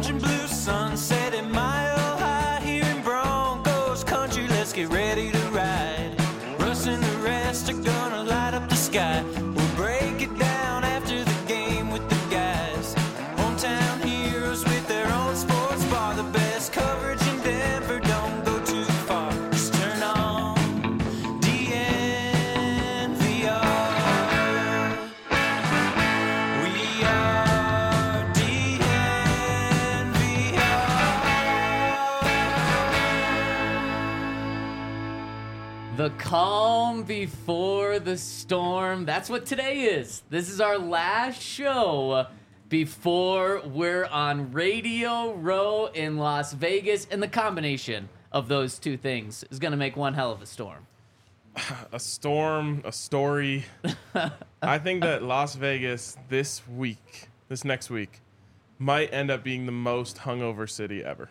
orange and blue sunset at Mile High here in Broncos country. Let's get ready to ride. Russ and the rest are gonna light up the sky. We'll break it down after the game with the guys. Hometown heroes with their own sports bar. The best coverage in Denver, don't go too far. Just turn on DNVR. We are DNVR. The calm before the storm. That's what today is. This is our last show before we're on Radio Row in Las Vegas. And the combination of those two things is going to make one hell of a storm. A storm, a story. I think that Las Vegas this next week, might end up being the most hungover city ever.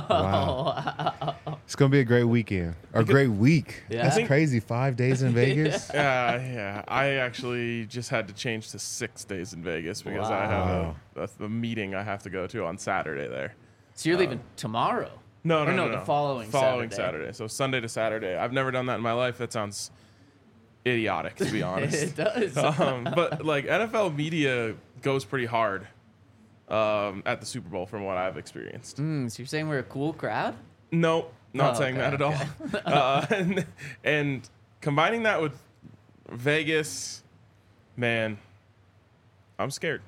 Wow. It's going to be a great weekend. Or a great week. Yeah. That's crazy. 5 days in Vegas. Yeah. I actually just had to change to 6 days in Vegas because I have a meeting I have to go to on Saturday there. So you're leaving tomorrow? No, the following Saturday. So Sunday to Saturday. I've never done that in my life. That sounds idiotic, to be honest. It does. But like NFL media goes pretty hard at the Super Bowl from what I've experienced. So you're saying we're a cool crowd? No, not saying okay, that at all. And combining that with Vegas, man, I'm scared.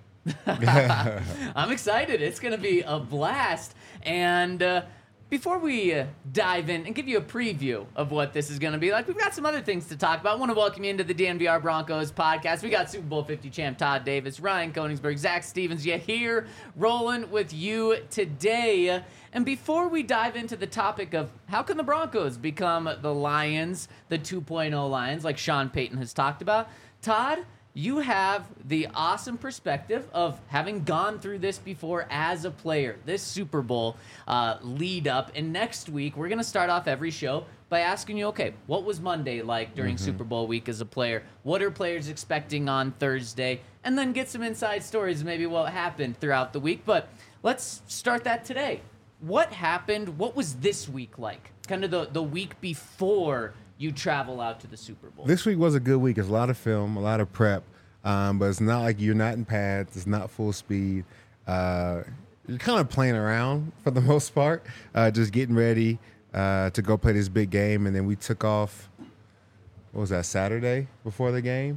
I'm excited. It's going to be a blast. And before we dive in and give you a preview of what this is going to be like, we've got some other things to talk about. I want to welcome you into the DNVR Broncos podcast. We got Super Bowl 50 champ Todd Davis, Ryan Koenigsberg, Zach Stevens, here rolling with you today. And before we dive into the topic of how can the Broncos become the Lions, the 2.0 Lions, like Sean Payton has talked about, Todd, you have the awesome perspective of having gone through this before as a player, this Super Bowl lead up. And next week, we're going to start off every show by asking you, okay, what was Monday like during Super Bowl week as a player? What are players expecting on Thursday? And then get some inside stories of maybe what happened throughout the week. But let's start that today. What happened? What was this week like? Kind of the week before you travel out to the Super Bowl. This week was a good week. It's a lot of film, a lot of prep, but it's not like you're not in pads. It's not full speed. You're kind of playing around for the most part, just getting ready to go play this big game. And then we took off, what was that, Saturday before the game?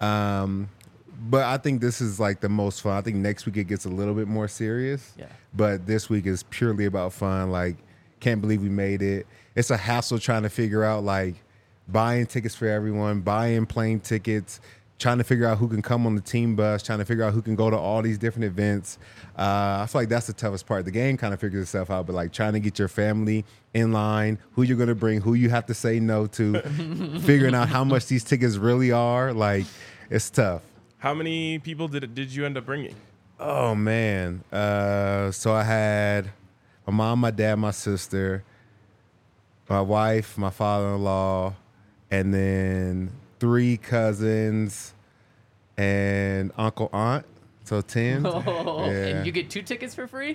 But I think this is like the most fun. I think next week it gets a little bit more serious. Yeah. But this week is purely about fun. Like, can't believe we made it. It's a hassle trying to figure out, like, buying tickets for everyone, buying plane tickets, trying to figure out who can come on the team bus, trying to figure out who can go to all these different events. I feel like that's the toughest part. The game kind of figures itself out, but like trying to get your family in line, who you're going to bring, who you have to say no to, figuring out how much these tickets really are. Like, it's tough. How many people did you end up bringing? Oh, man. So I had my mom, my dad, my sister, my wife, my father-in-law, and then 3 cousins and uncle, aunt. So 10. Oh, Yeah. and you get 2 tickets for free?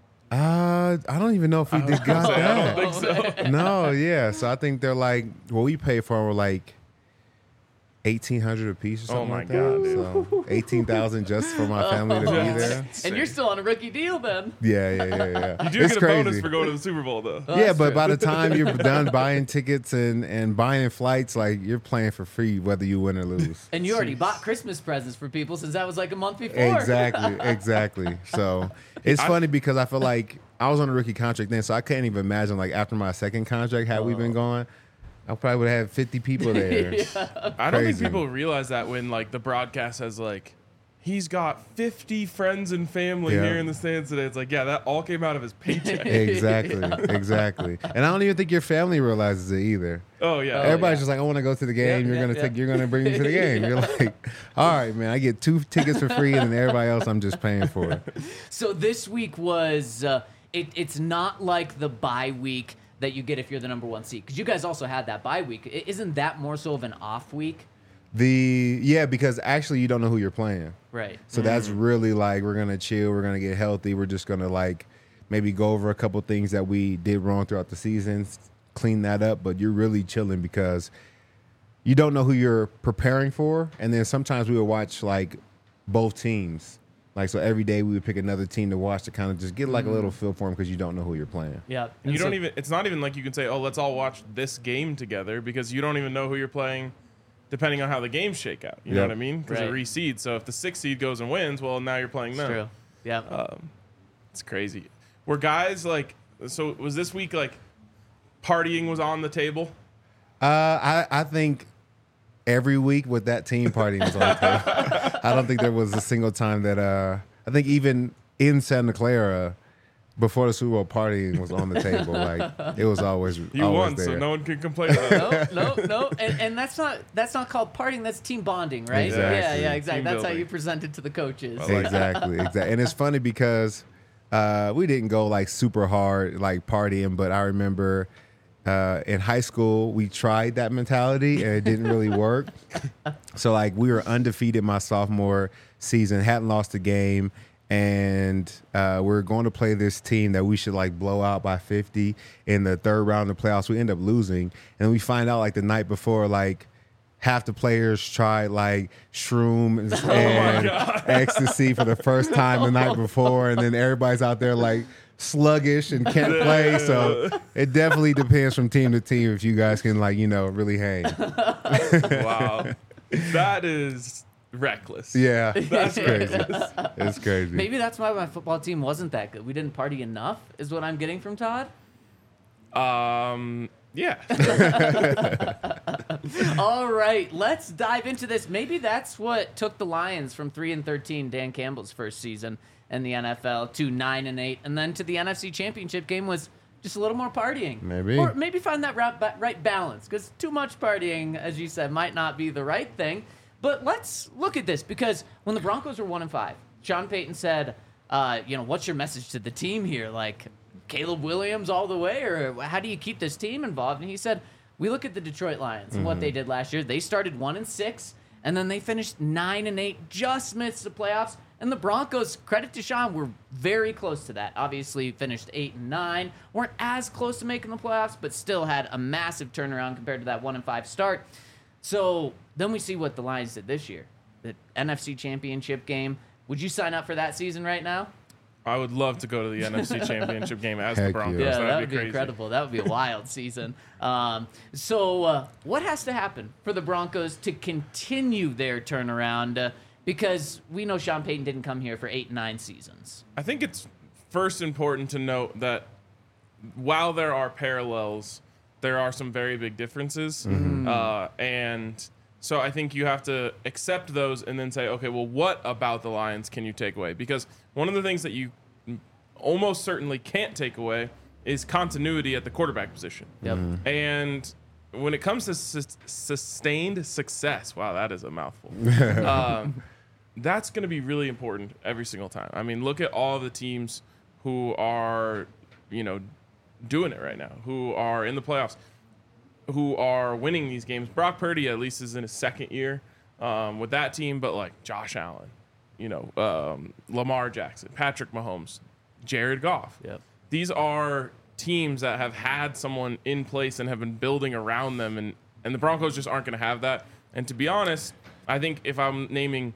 I don't even know if we did got I that. don't think so. No, yeah. So I think they're like, what we paid for were like $1,800 a piece or something my like God, that. So 18,000 just for my family to be there. And you're still on a rookie deal then. Yeah. You do It's get a crazy. bonus for going to the Super Bowl, though. Yeah, that's but true. by the time you're done buying tickets and buying flights, like, you're playing for free whether you win or lose. And you already bought Christmas presents for people since that was like a month before. Exactly. So it's funny because I feel like I was on a rookie contract then, so I couldn't even imagine, like, after my second contract, had we been going, I probably would have had 50 people there. I don't think Crazy. people realize that when, like, the broadcast has, like, he's got 50 friends and family Yeah. here in the stands today. It's like, yeah, that all came out of his paycheck. Exactly. And I don't even think your family realizes it either. Oh, yeah. Everybody's just like, I want to go to the game. You're gonna bring me to the game. You're like, all right, man. I get 2 tickets for free, and then everybody else I'm just paying for. So this week was, it's not like the bye week that you get if you're the number 1 seed. Because you guys also had that bye week. Isn't that more so of an off week? Because actually you don't know who you're playing. Right. So that's really like, we're gonna chill, we're gonna get healthy, we're just gonna like maybe go over a couple things that we did wrong throughout the season, clean that up. But you're really chilling because you don't know who you're preparing for. And then sometimes we would watch like both teams. Like, so every day we would pick another team to watch to kind of just get like a little feel for them because you don't know who you're playing. Yeah. And you don't even, it's not even like you can say, oh, let's all watch this game together, because you don't even know who you're playing depending on how the games shake out. You know what I mean? Because it reseeds. So if the 6th seed goes and wins, well, now you're playing them. True. Yeah. It's crazy. Were guys like, so was this week like partying was on the table? I think every week with that team partying was on the table. I don't think there was a single time that I think even in Santa Clara before the Super Bowl, partying was on the table. Like, it was always you always won, there. so no one can complain about it. No. And that's not called partying. That's team bonding, right? Exactly. Yeah, exactly. Team That's how building. you present it to the coaches. Exactly. And it's funny because we didn't go like super hard like partying, but I remember in high school we tried that mentality and it didn't really work. So like we were undefeated my sophomore season, hadn't lost a game, and we're going to play this team that we should like blow out by 50 in the third round of the playoffs. We end up losing, and we find out like the night before, like half the players tried like shrooms and ecstasy for the first time the night before, and then everybody's out there like sluggish and can't play. So it definitely depends from team to team if you guys can like, you know, really hang. Wow. That is reckless. Yeah, that's crazy. It's crazy. Maybe that's why my football team wasn't that good. We didn't party enough, is what I'm getting from Todd. Yeah. All right, let's dive into this. Maybe that's what took the Lions from 3-13, Dan Campbell's first season in the NFL, to 9-8, and then to the NFC Championship game was just a little more partying. Maybe. Or maybe find that right balance, because too much partying, as you said, might not be the right thing. But let's look at this, because when the Broncos were 1-5, Sean Payton said, what's your message to the team here? Like, Caleb Williams all the way, or how do you keep this team involved? And he said, we look at the Detroit Lions and what they did last year. They started 1-6, and then they finished 9-8, just missed the playoffs. And the Broncos, credit to Sean, were very close to that. Obviously, finished 8-9, weren't as close to making the playoffs, but still had a massive turnaround compared to that 1-5 start. So then we see what the Lions did this year, the NFC Championship game. Would you sign up for that season right now? I would love to go to the NFC Championship game as the Heck Broncos. yeah. Yeah, that That'd would be crazy. incredible. That would be a wild season. So what has to happen for the Broncos to continue their turnaround? Because we know Sean Payton didn't come here for 8-9 seasons. I think it's first important to note that while there are parallels, there are some very big differences. And so I think you have to accept those and then say, okay, well, what about the Lions can you take away? Because one of the things that you almost certainly can't take away is continuity at the quarterback position. Yep. And when it comes to sustained success, wow, that is a mouthful. That's going to be really important every single time. I mean, look at all of the teams who are, doing it right now, who are in the playoffs, who are winning these games. Brock Purdy at least is in his second year with that team, but like Josh Allen, Lamar Jackson, Patrick Mahomes, Jared Goff. Yep. These are teams that have had someone in place and have been building around them, and the Broncos just aren't going to have that. And to be honest, I think if I'm naming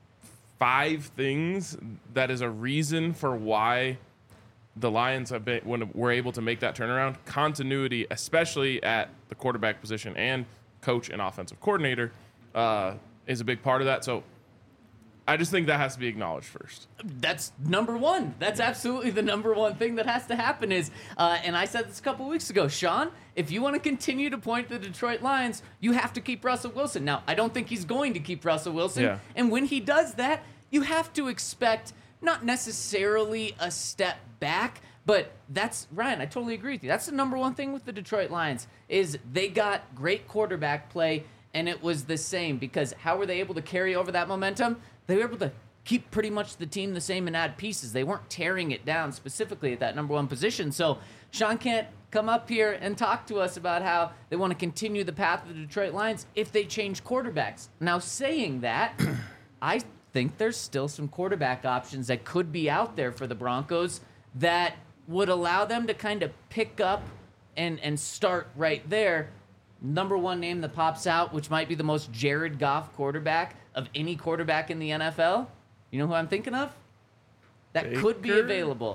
5 things that is a reason for why the Lions have been, when we're able to make that turnaround, continuity, especially at the quarterback position and coach and offensive coordinator, is a big part of that. So I just think that has to be acknowledged first. That's number one. That's absolutely the number one thing that has to happen is, and I said this a couple weeks ago, Sean, if you want to continue to point to the Detroit Lions, you have to keep Russell Wilson. Now, I don't think he's going to keep Russell Wilson. Yeah. And when he does that, you have to expect not necessarily a step back, but that's, Ryan, I totally agree with you. That's the number one thing with the Detroit Lions is they got great quarterback play, and it was the same because how were they able to carry over that momentum? They were able to keep pretty much the team the same and add pieces. They weren't tearing it down specifically at that number one position. So Sean can't come up here and talk to us about how they want to continue the path of the Detroit Lions if they change quarterbacks. Now, saying that, I think there's still some quarterback options that could be out there for the Broncos that would allow them to kind of pick up and start right there. Number one name that pops out, which might be the most Jared Goff quarterback of any quarterback in the NFL. You know who I'm thinking of? That could be Baker? available.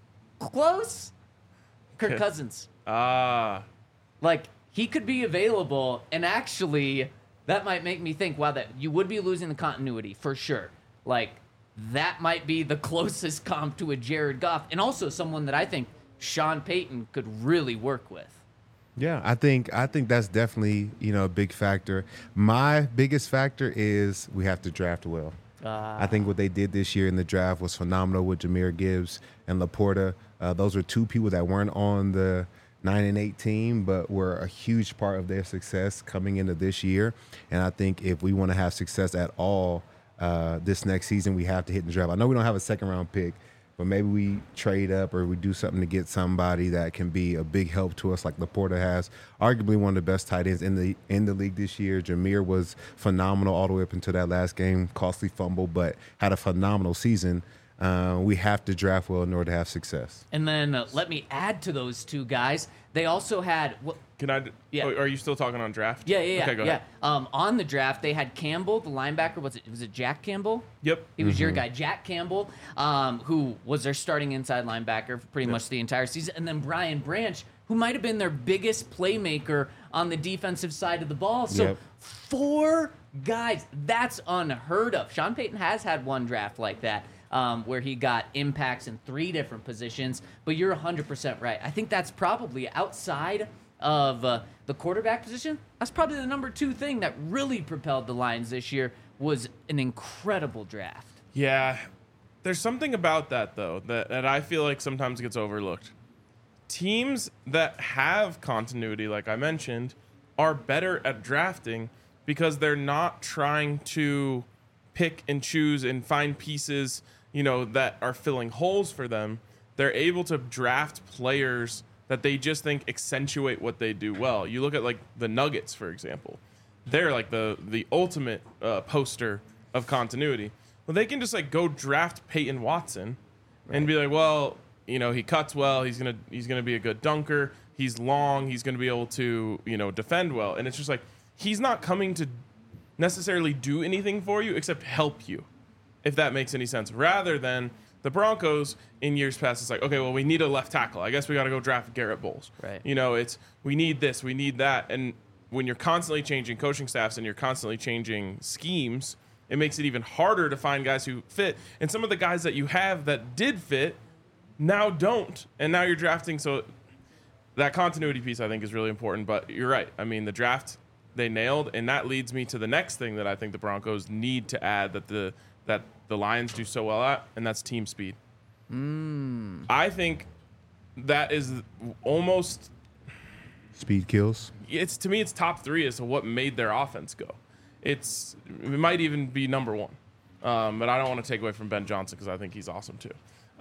Close. Kirk Cousins. Ah. Like, he could be available, and actually, that might make me think, wow, that you would be losing the continuity for sure. Like, that might be the closest comp to a Jared Goff, and also someone that I think Sean Payton could really work with. Yeah, I think that's definitely, a big factor. My biggest factor is we have to draft well. I think what they did this year in the draft was phenomenal with Jahmyr Gibbs and Laporta. Those are two people that weren't on the 9 and 8 team, but were a huge part of their success coming into this year. And I think if we want to have success at all this next season, we have to hit the draft. I know we don't have a second round pick, but maybe we trade up or we do something to get somebody that can be a big help to us, like Laporta has. Arguably one of the best tight ends in the league this year. Jahmyr was phenomenal all the way up until that last game, costly fumble, but had a phenomenal season. We have to draft well in order to have success. And then let me add to those two guys. They also had Can I? Yeah. Oh, are you still talking on draft? Yeah. Okay, go ahead. On the draft, they had Campbell, the linebacker. Was it Jack Campbell? Yep. He was your guy, Jack Campbell, who was their starting inside linebacker for pretty much the entire season. And then Brian Branch, who might have been their biggest playmaker on the defensive side of the ball. So 4 guys, that's unheard of. Sean Payton has had one draft like that. Where he got impacts in 3 different positions, but you're 100% right. I think that's probably outside of the quarterback position. That's probably the number 2 thing that really propelled the Lions this year was an incredible draft. Yeah. There's something about that, though, that I feel like sometimes gets overlooked. Teams that have continuity, like I mentioned, are better at drafting because they're not trying to pick and choose and find pieces that are filling holes for them. They're able to draft players that they just think accentuate what they do well. You look at like the Nuggets, for example. They're like the ultimate poster of continuity. Well, they can just like go draft Peyton Watson and be like, well, he cuts well. He's gonna be a good dunker. He's long. He's gonna be able to defend well. And it's just like he's not coming to necessarily do anything for you except help you, if that makes any sense. Rather than the Broncos in years past, it's like, okay, well, we need a left tackle. I guess we got to go draft Garrett Bowles. Right. It's we need this, we need that. And when you're constantly changing coaching staffs and you're constantly changing schemes, it makes it even harder to find guys who fit. And some of the guys that you have that did fit now don't. And now you're drafting. So that continuity piece, I think, is really important. But you're right. I mean, the draft they nailed, and that leads me to the next thing that I think the Broncos need to add that the Lions do so well at, and that's team speed. I think that is almost Speed kills. to me it's top 3 as to what made their offense go. It might even be number 1, but I don't want to take away from Ben Johnson because I think he's awesome too.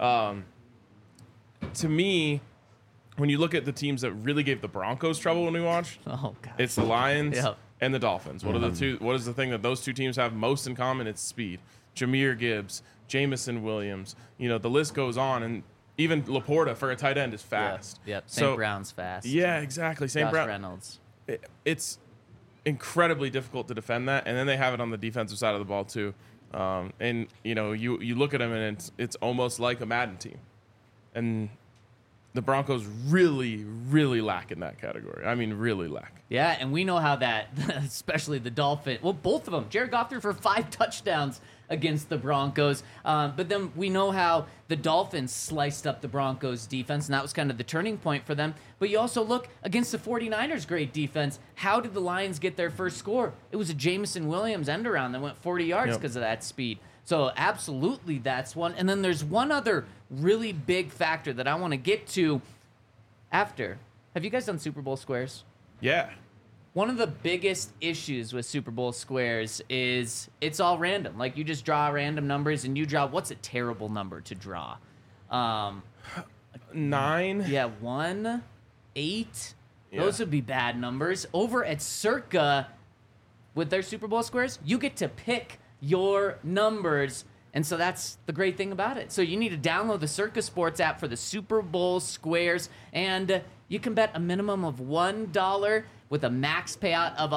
To me, when you look at the teams that really gave the Broncos trouble when we watched, it's the Lions and the Dolphins. What are the two? What is the thing that those 2 teams have most in common? It's speed. Jahmyr Gibbs, Jamison Williams. The list goes on, and even Laporta for a tight end is fast. Yep. St. Brown's fast. Yeah, exactly. Josh Reynolds. It's incredibly difficult to defend that, and then they have it on the defensive side of the ball too. And you look at them, and it's almost like a Madden team, and the Broncos really, really lack in that category. I mean, really lack. Yeah, and we know how that, especially the Dolphins, well, both of them. Jared Goff threw for 5 touchdowns against the Broncos. But then we know how the Dolphins sliced up the Broncos defense, and that was kind of the turning point for them. But you also look against the 49ers' great defense. How did the Lions get their first score? It was a Jamison Williams end around that went 40 yards because of that speed. So absolutely that's one. And then there's one other really big factor that I want to get to after. Have you guys done Super Bowl squares? Yeah. One of the biggest issues with Super Bowl squares is it's all random. Like, you just draw random numbers, and you draw, what's a terrible number to draw? 9? Yeah, 1, 8. Yeah. Those would be bad numbers. Over at Circa, with their Super Bowl squares, you get to pick your numbers, And so that's the great thing about it. So you need to download the Circa Sports app for the Super Bowl squares, and you can bet a minimum of $1 with a max payout of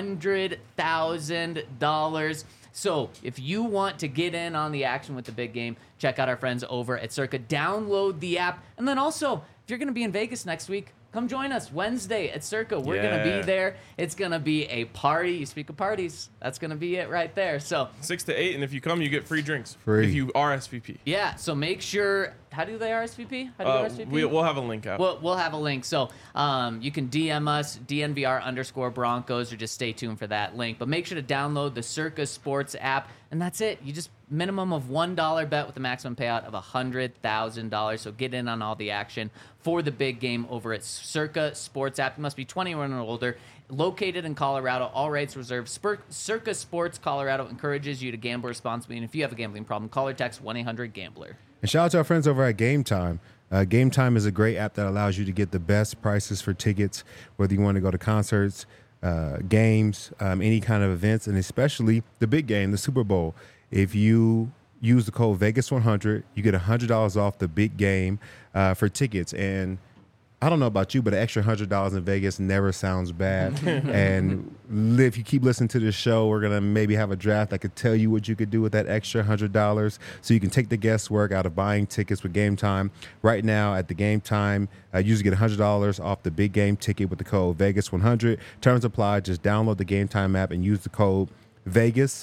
$100,000. So if you want to get in on the action with the big game, check out our friends over at Circa. Download the app. And then also, if you're going to be in Vegas next week, come join us Wednesday at Circa. We're going to be there. It's going to be a party. You speak of parties. That's going to be it right there. So 6 to 8, and if you come, you get free drinks. Free. If you RSVP. yeah, so make sure. How do they RSVP? How do you RSVP? We'll have a link out. We'll have a link. So you can DM us, DNVR_Broncos, or just stay tuned for that link. But make sure to download the Circa Sports app, and that's it. You just minimum of $1 bet with a maximum payout of $100,000. So get in on all the action for the big game over at Circa Sports app. You must be 21 or older. Located in Colorado, all rights reserved. Circa Sports Colorado encourages you to gamble responsibly. And if you have a gambling problem, call or text 1-800-GAMBLER. And shout out to our friends over at Game Time. Game Time is a great app that allows you to get the best prices for tickets, whether you want to go to concerts, games, any kind of events, and especially the big game, the Super Bowl. If you use the code Vegas100, you get $100 off the big game for tickets. And I don't know about you, but an extra $100 in Vegas never sounds bad. And if you keep listening to this show, we're going to maybe have a draft that could tell you what you could do with that extra $100 so you can take the guesswork out of buying tickets with Game Time. Right now at the Game Time, you usually get $100 off the big game ticket with the code Vegas100. Terms apply. Just download the Game Time app and use the code Vegas,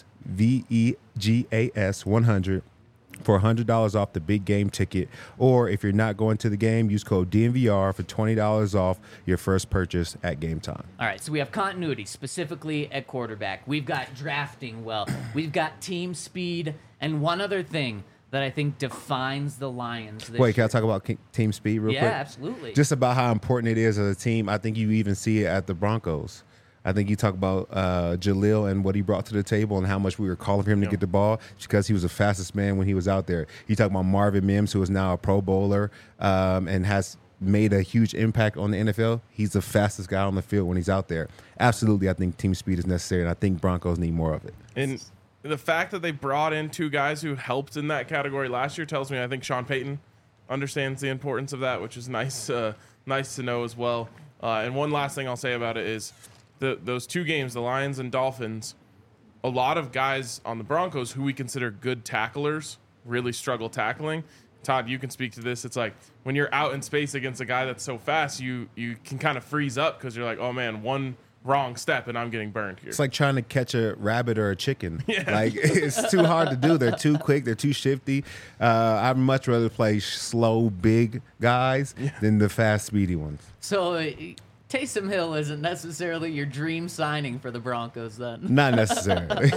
VEGAS 100. for $100 off the big game ticket. Or if you're not going to the game, use code DNVR for $20 off your first purchase at Game Time. All right, so we have continuity, specifically at quarterback. We've got drafting well. We've got team speed. And one other thing that I think defines the Lions this Wait, year. can I talk about team speed real quick? Yeah, absolutely. Just about how important it is as a team. I think you even see it at the Broncos. I think you talk about Jaleel and what he brought to the table and how much we were calling for him to get the ball because he was the fastest man when he was out there. You talk about Marvin Mims, who is now a Pro Bowler and has made a huge impact on the NFL. He's the fastest guy on the field when he's out there. Absolutely, I think team speed is necessary, and I think Broncos need more of it. And the fact that they brought in two guys who helped in that category last year tells me I think Sean Payton understands the importance of that, which is nice to know as well. And one last thing I'll say about it is those two games, the Lions and Dolphins, a lot of guys on the Broncos who we consider good tacklers really struggle tackling. Todd, you can speak to this. It's like when you're out in space against a guy that's so fast, you can kind of freeze up because you're like, oh man, one wrong step and I'm getting burned here. It's like trying to catch a rabbit or a chicken. Yeah. Like it's too hard to do. They're too quick. They're too shifty. I'd much rather play slow, big guys than the fast, speedy ones. So Taysom Hill isn't necessarily your dream signing for the Broncos then. Not necessarily.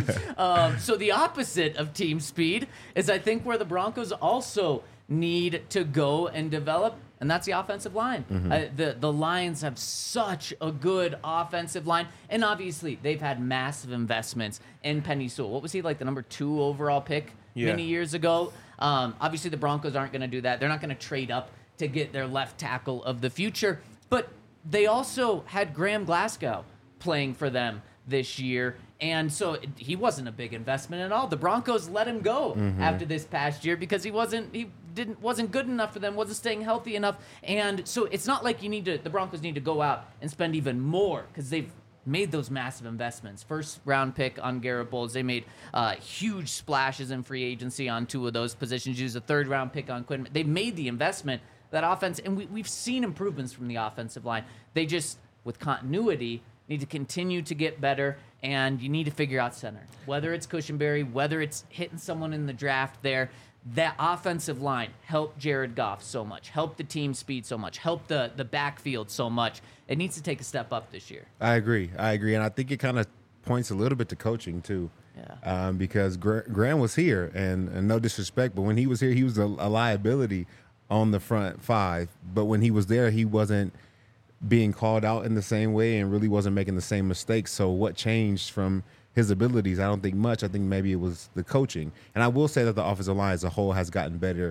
So the opposite of team speed is I think where the Broncos also need to go and develop, and that's the offensive line. The Lions have such a good offensive line, and obviously they've had massive investments in Penei Sewell. What was he, like the number 2 overall pick many years ago? Obviously the Broncos aren't going to do that. They're not going to trade up to get their left tackle of the future, but they also had Graham Glasgow playing for them this year, and so he wasn't a big investment at all. The Broncos let him go after this past year because he wasn't good enough for them, wasn't staying healthy enough, and so it's not like the Broncos need to go out and spend even more because they've made those massive investments. First round pick on Garrett Bowles. They made huge splashes in free agency on 2 of those positions. Used a 3rd round pick on Quinn. They made the investment. That offense, and we've seen improvements from the offensive line. They just, with continuity, need to continue to get better, and you need to figure out center. Whether it's Cushenberry, whether it's hitting someone in the draft there, that offensive line helped Jared Goff so much, helped the team speed so much, helped the backfield so much. It needs to take a step up this year. I agree, and I think it kind of points a little bit to coaching, too. Yeah. Because Graham was here, and no disrespect, but when he was here, he was a liability on the front 5, but when he was there, he wasn't being called out in the same way and really wasn't making the same mistakes. So what changed from his abilities? I don't think much. I think maybe it was the coaching. And I will say that the offensive line as a whole has gotten better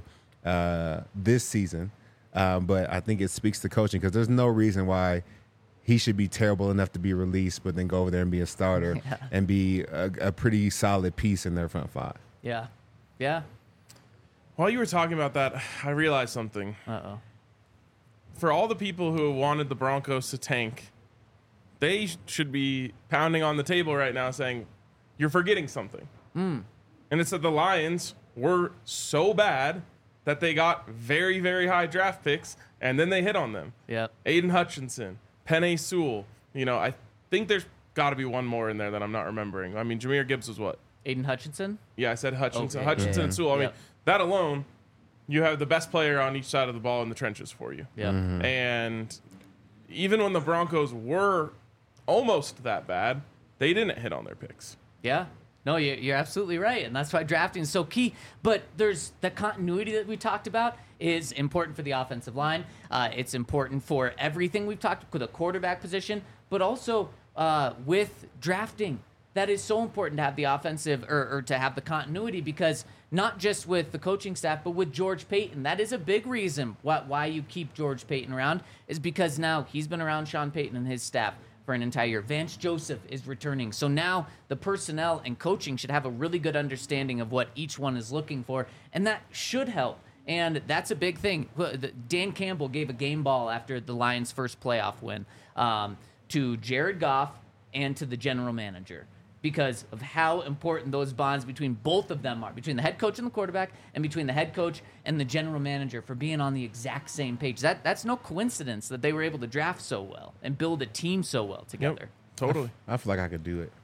this season, but I think it speaks to coaching because there's no reason why he should be terrible enough to be released, but then go over there and be a starter and be a pretty solid piece in their front 5. Yeah. Yeah. While you were talking about that, I realized something. Uh-oh. For all the people who wanted the Broncos to tank, they should be pounding on the table right now saying, you're forgetting something. And it's that the Lions were so bad that they got very, very high draft picks, and then they hit on them. Yep. Aiden Hutchinson, Penei Sewell. You know, I think there's got to be one more in there that I'm not remembering. I mean, Jahmyr Gibbs was what? Aiden Hutchinson? Yeah, I said Hutchinson. Okay. Hutchinson Yeah. and Sewell. I mean, Yep. that alone, you have the best player on each side of the ball in the trenches for you. Yeah. And even when the Broncos were almost that bad, they didn't hit on their picks. Yeah. No, you're absolutely right. And that's why drafting is so key. But there's the continuity that we talked about is important for the offensive line. It's important for everything we've talked with the quarterback position, but also with drafting. That is so important to have the offensive or to have the continuity, because not just with the coaching staff, but with George Payton. That is a big reason why you keep George Payton around, is because now he's been around Sean Payton and his staff for an entire year. Vance Joseph is returning. So now the personnel and coaching should have a really good understanding of what each one is looking for, and that should help. And that's a big thing. Dan Campbell gave a game ball after the Lions' first playoff win to Jared Goff and to the general manager, because of how important those bonds between both of them are, between the head coach and the quarterback, and between the head coach and the general manager, for being on the exact same page. That's no coincidence that they were able to draft so well and build a team so well together. Totally. I feel like I could do it.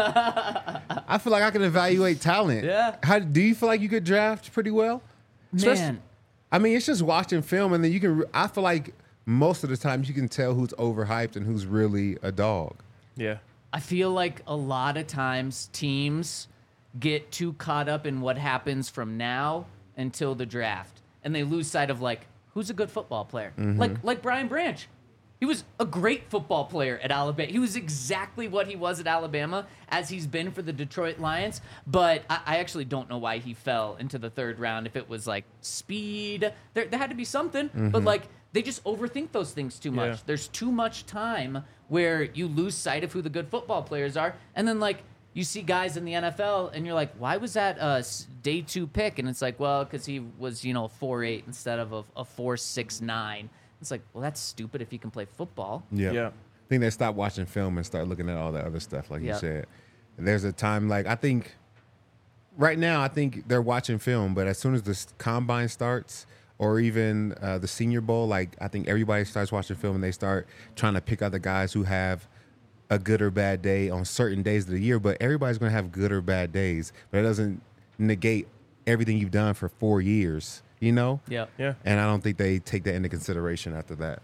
I feel like I can evaluate talent. Yeah. How do you feel like you could draft pretty well? Especially- Man, I mean, it's just watching film, and then you can. I feel like most of the times you can tell who's overhyped and who's really a dog. Yeah. I feel like a lot of times teams get too caught up in what happens from now until the draft, and they lose sight of like who's a good football player. Like Brian Branch. He was a great football player at Alabama. He was exactly what he was at Alabama as he's been for the Detroit Lions. But I actually don't know why he fell into the third round. If it was like speed, there had to be something. But like they just overthink those things too much. Yeah. There's too much time where you lose sight of who the good football players are. And then like you see guys in the NFL and you're like, why was that a day 2 pick? And it's like, well, because he was, 4'8" instead of a 4'6'9". It's like, well, that's stupid if he can play football. Yeah. I think they stop watching film and start looking at all that other stuff, like you Yep. said. There's a time, like, I think right now, I think they're watching film, but as soon as the combine starts, or even the Senior Bowl, like, I think everybody starts watching film and they start trying to pick out the guys who have a good or bad day on certain days of the year. But everybody's going to have good or bad days, but it doesn't negate everything you've done for 4 years, Yeah. Yeah. And I don't think they take that into consideration after that.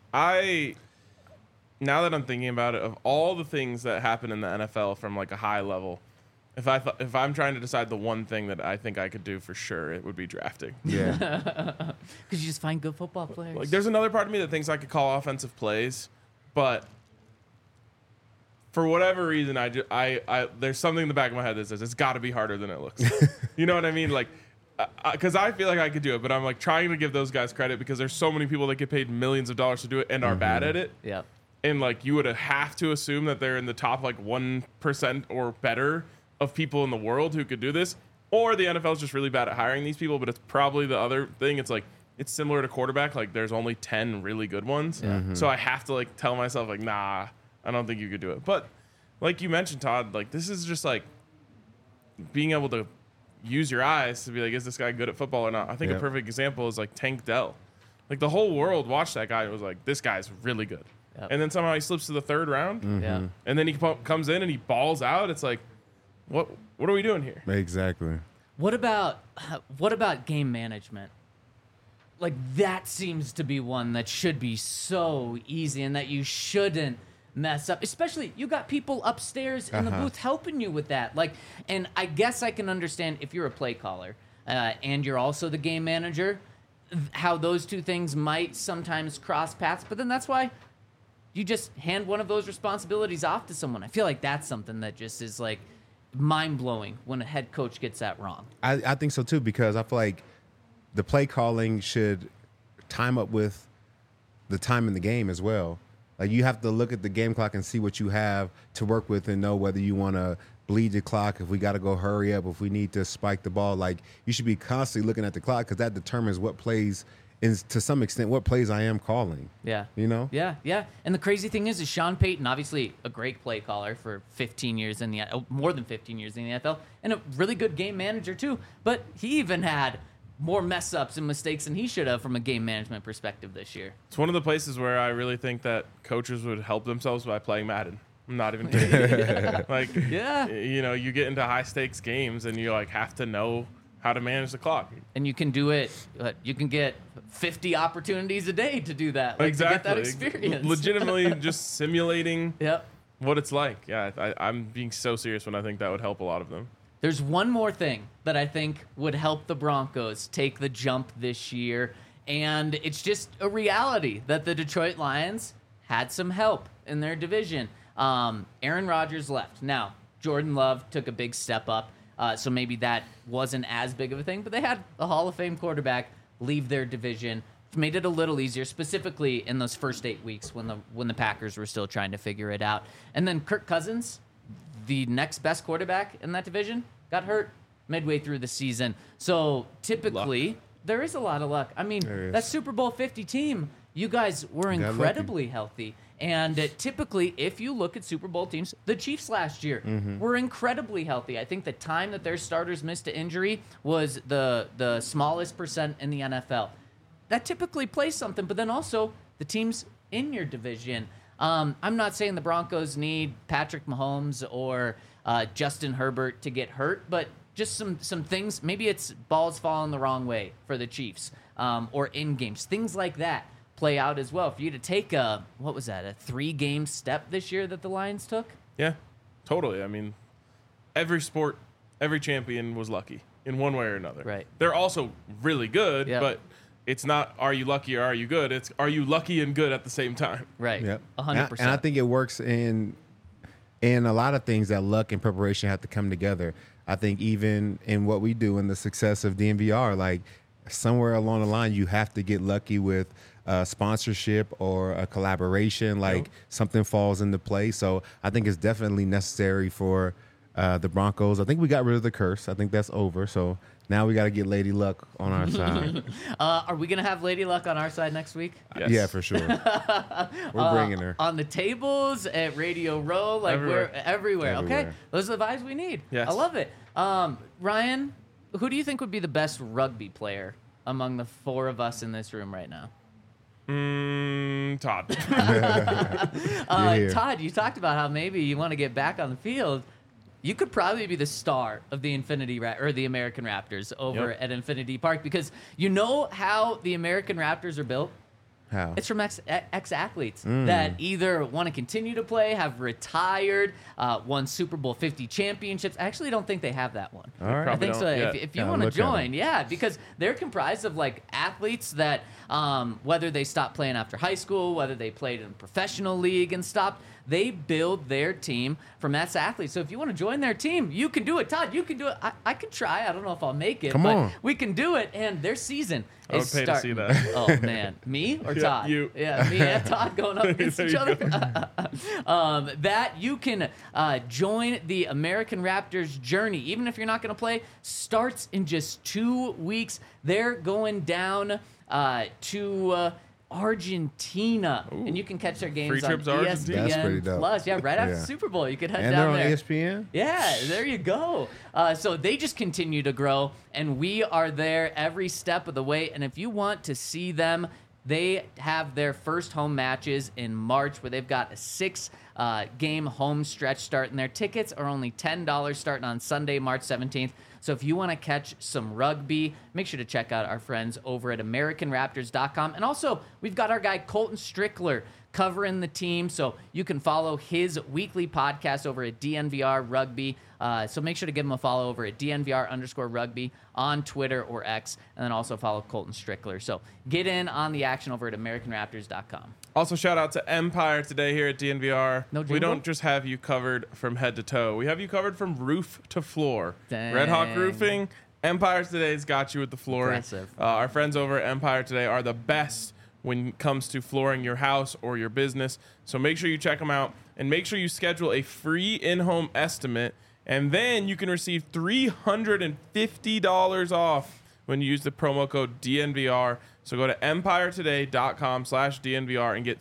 Now that I'm thinking about it, of all the things that happen in the NFL from like a high level, if I'm trying to decide the one thing that I think I could do for sure, it would be drafting. Yeah. Because you just find good football players. Like, there's another part of me that thinks I could call offensive plays, but for whatever reason, there's something in the back of my head that says it's got to be harder than it looks. You know what I mean? Like, because I feel like I could do it, but I'm like trying to give those guys credit because there's so many people that get paid millions of dollars to do it and are bad at it. Yeah. And like you would have to assume that they're in the top like 1% or better of people in the world who could do this, or the NFL is just really bad at hiring these people. But it's probably the other thing. It's like it's similar to quarterback. Like there's only 10 really good ones, so I have to like tell myself like, nah, I don't think you could do it. But like you mentioned, Todd, like this is just like being able to use your eyes to be like, is this guy good at football or not? I think a Yeah. perfect example is like Tank Dell. Like the whole world watched that guy and was like, this guy's really good. Yep. And then somehow he slips to the third round, Yeah. and then he comes in and he balls out. It's like, what are we doing here? Exactly. What about game management? Like that seems to be one that should be so easy and that you shouldn't mess up. Especially you got people upstairs in the booth helping you with that. Like, and I guess I can understand if you're a play caller and you're also the game manager, how those two things might sometimes cross paths. But then that's why you just hand one of those responsibilities off to someone. I feel like that's something that just is like mind-blowing when a head coach gets that wrong. I think so too, because I feel like the play calling should time up with the time in the game as well. Like you have to look at the game clock and see what you have to work with and know whether you want to bleed the clock, if we got to go hurry up, if we need to spike the ball, like you should be constantly looking at the clock because that determines what plays is to some extent what plays I am calling. Yeah. You know? Yeah, yeah. And the crazy thing is Sean Payton, obviously a great play caller for 15 years in the more than 15 years in the NFL, and a really good game manager too. But he even had more mess ups and mistakes than he should have from a game management perspective this year. It's one of the places where I really think that coaches would help themselves by playing Madden. I'm not even kidding. Like, Yeah. you know, you get into high stakes games and you like have to know how to manage the clock. And you can do it. You can get 50 opportunities a day to do that. Like, Exactly. To get that experience. Legitimately just simulating Yep. what it's like. Yeah, I'm being so serious when I think that would help a lot of them. There's one more thing that I think would help the Broncos take the jump this year, and it's just a reality that the Detroit Lions had some help in their division. Aaron Rodgers left. Now, Jordan Love took a big step up, so maybe that wasn't as big of a thing, but they had a Hall of Fame quarterback leave their division, which made it a little easier, specifically in those first 8 weeks when the Packers were still trying to figure it out. And then Kirk Cousins, the next best quarterback in that division, got hurt midway through the season. So typically, there is a lot of luck. I mean, that Super Bowl 50 team, you guys were incredibly healthy. And typically, if you look at Super Bowl teams, the Chiefs last year were incredibly healthy. I think the time that their starters missed to injury was the smallest percent in the NFL. That typically plays something, but then also the teams in your division. I'm not saying the Broncos need Patrick Mahomes or Justin Herbert to get hurt, but just some things. Maybe it's balls falling the wrong way for the Chiefs or in games. Things like that play out as well. For you to take a 3-game step this year that the Lions took? Yeah, totally. I mean, every sport, every champion was lucky in one way or another. Right. They're also really good, Yep. but it's not are you lucky or are you good? It's are you lucky and good at the same time. Right. Yep. 100%. And I think it works in a lot of things that luck and preparation have to come together. I think even in what we do in the success of DNVR, like somewhere along the line, you have to get lucky with sponsorship or a collaboration, like something falls into place. So I think it's definitely necessary for the Broncos. I think we got rid of the curse. I think that's over. So now we got to get Lady Luck on our side. Are we going to have Lady Luck on our side next week? Yes. Yeah, for sure. We're bringing her. On the tables, at Radio Row, like Everywhere. we're everywhere. Okay, Everywhere. those are the vibes we need. Yes. I love it. Ryan, who do you think would be the best rugby player among the four of us in this room right now? Todd. here. Todd, you talked about how maybe you want to get back on the field. You could probably be the star of the the American Raptors over Yep. at Infinity Park, because you know how the American Raptors are built? How? It's from ex-athletes that either want to continue to play, have retired, won Super Bowl 50 championships. I actually don't think they have that one. All right. I Probably think so. don't yet. If you Yeah, want to look at 'em. join, yeah, because they're comprised of like athletes that, whether they stopped playing after high school, whether they played in a professional league and stopped, they build their team from ex-athletes. So if you want to join their team, you can do it. Todd, you can do it. I could try. I don't know if I'll make it, Come but on. we can do it. And their season I would is pay to see starting. that. Oh man, me or Yeah, Todd? you. Yeah, me and Todd going up against There each you other. That you can join the American Raptors journey, even if you're not going to play. Starts in just 2 weeks. They're going down to Argentina, and you can catch their games Free on trip to Argentina? That's pretty ESPN dope. Plus. Yeah, right after Yeah. the Super Bowl, you could head And they're down on there. ESPN? Yeah, there you go. So they just continue to grow, and we are there every step of the way. And if you want to see them, they have their first home matches in March, where they've got a 6-game home stretch starting. Their tickets are only $10 starting on Sunday, March 17th. So if you want to catch some rugby, make sure to check out our friends over at AmericanRaptors.com. And also, we've got our guy Colton Strickler covering the team, so you can follow his weekly podcast over at DNVR Rugby. So make sure to give him a follow over at DNVR_rugby on Twitter or X, and then also follow Colton Strickler. So get in on the action over at AmericanRaptors.com. Also, shout out to Empire today here at DNVR. No We jingle? don't just have you covered from head to toe. We have you covered from roof to floor. Dang. Red Hawk Roofing, Empire Today's got you with the flooring. Impressive. Our friends over at Empire Today are the best when it comes to flooring your house or your business. So make sure you check them out, and make sure you schedule a free in-home estimate And then you can receive $350 off when you use the promo code DNVR. So go to empiretoday.com/DNVR and get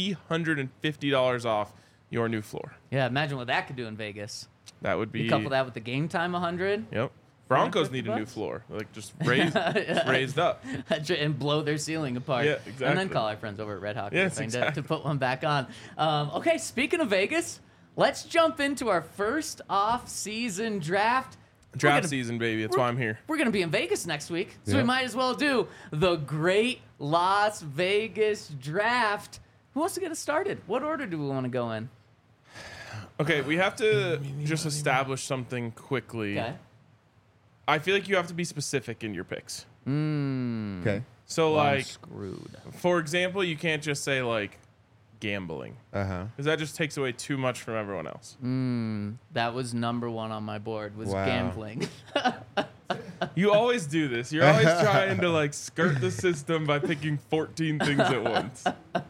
$350 off your new floor. Yeah, imagine what that could do in Vegas. That would be. You couple that with the game time 100. Yep. Broncos $350 need a new floor, like just raised up. And blow their ceiling apart. Yeah, exactly. And then call our friends over at Red Hawk Yes, to put one back on. Okay, speaking of Vegas, let's jump into our first off-season draft. Draft season, baby. That's why I'm here. We're going to be in Vegas next week, so we Yep. might as well do the Great Las Vegas Draft. Who wants to get us started? What order do we want to go in? Okay, we have to just establish something quickly. Okay. I feel like you have to be specific in your picks. Okay. So, I'm like, screwed. for example, you can't just say, like, gambling. Uh-huh. Because that just takes away too much from everyone else. That was number one on my board, was Wow. gambling. You always do this. You're always trying to, like, skirt the system by picking 14 things at once.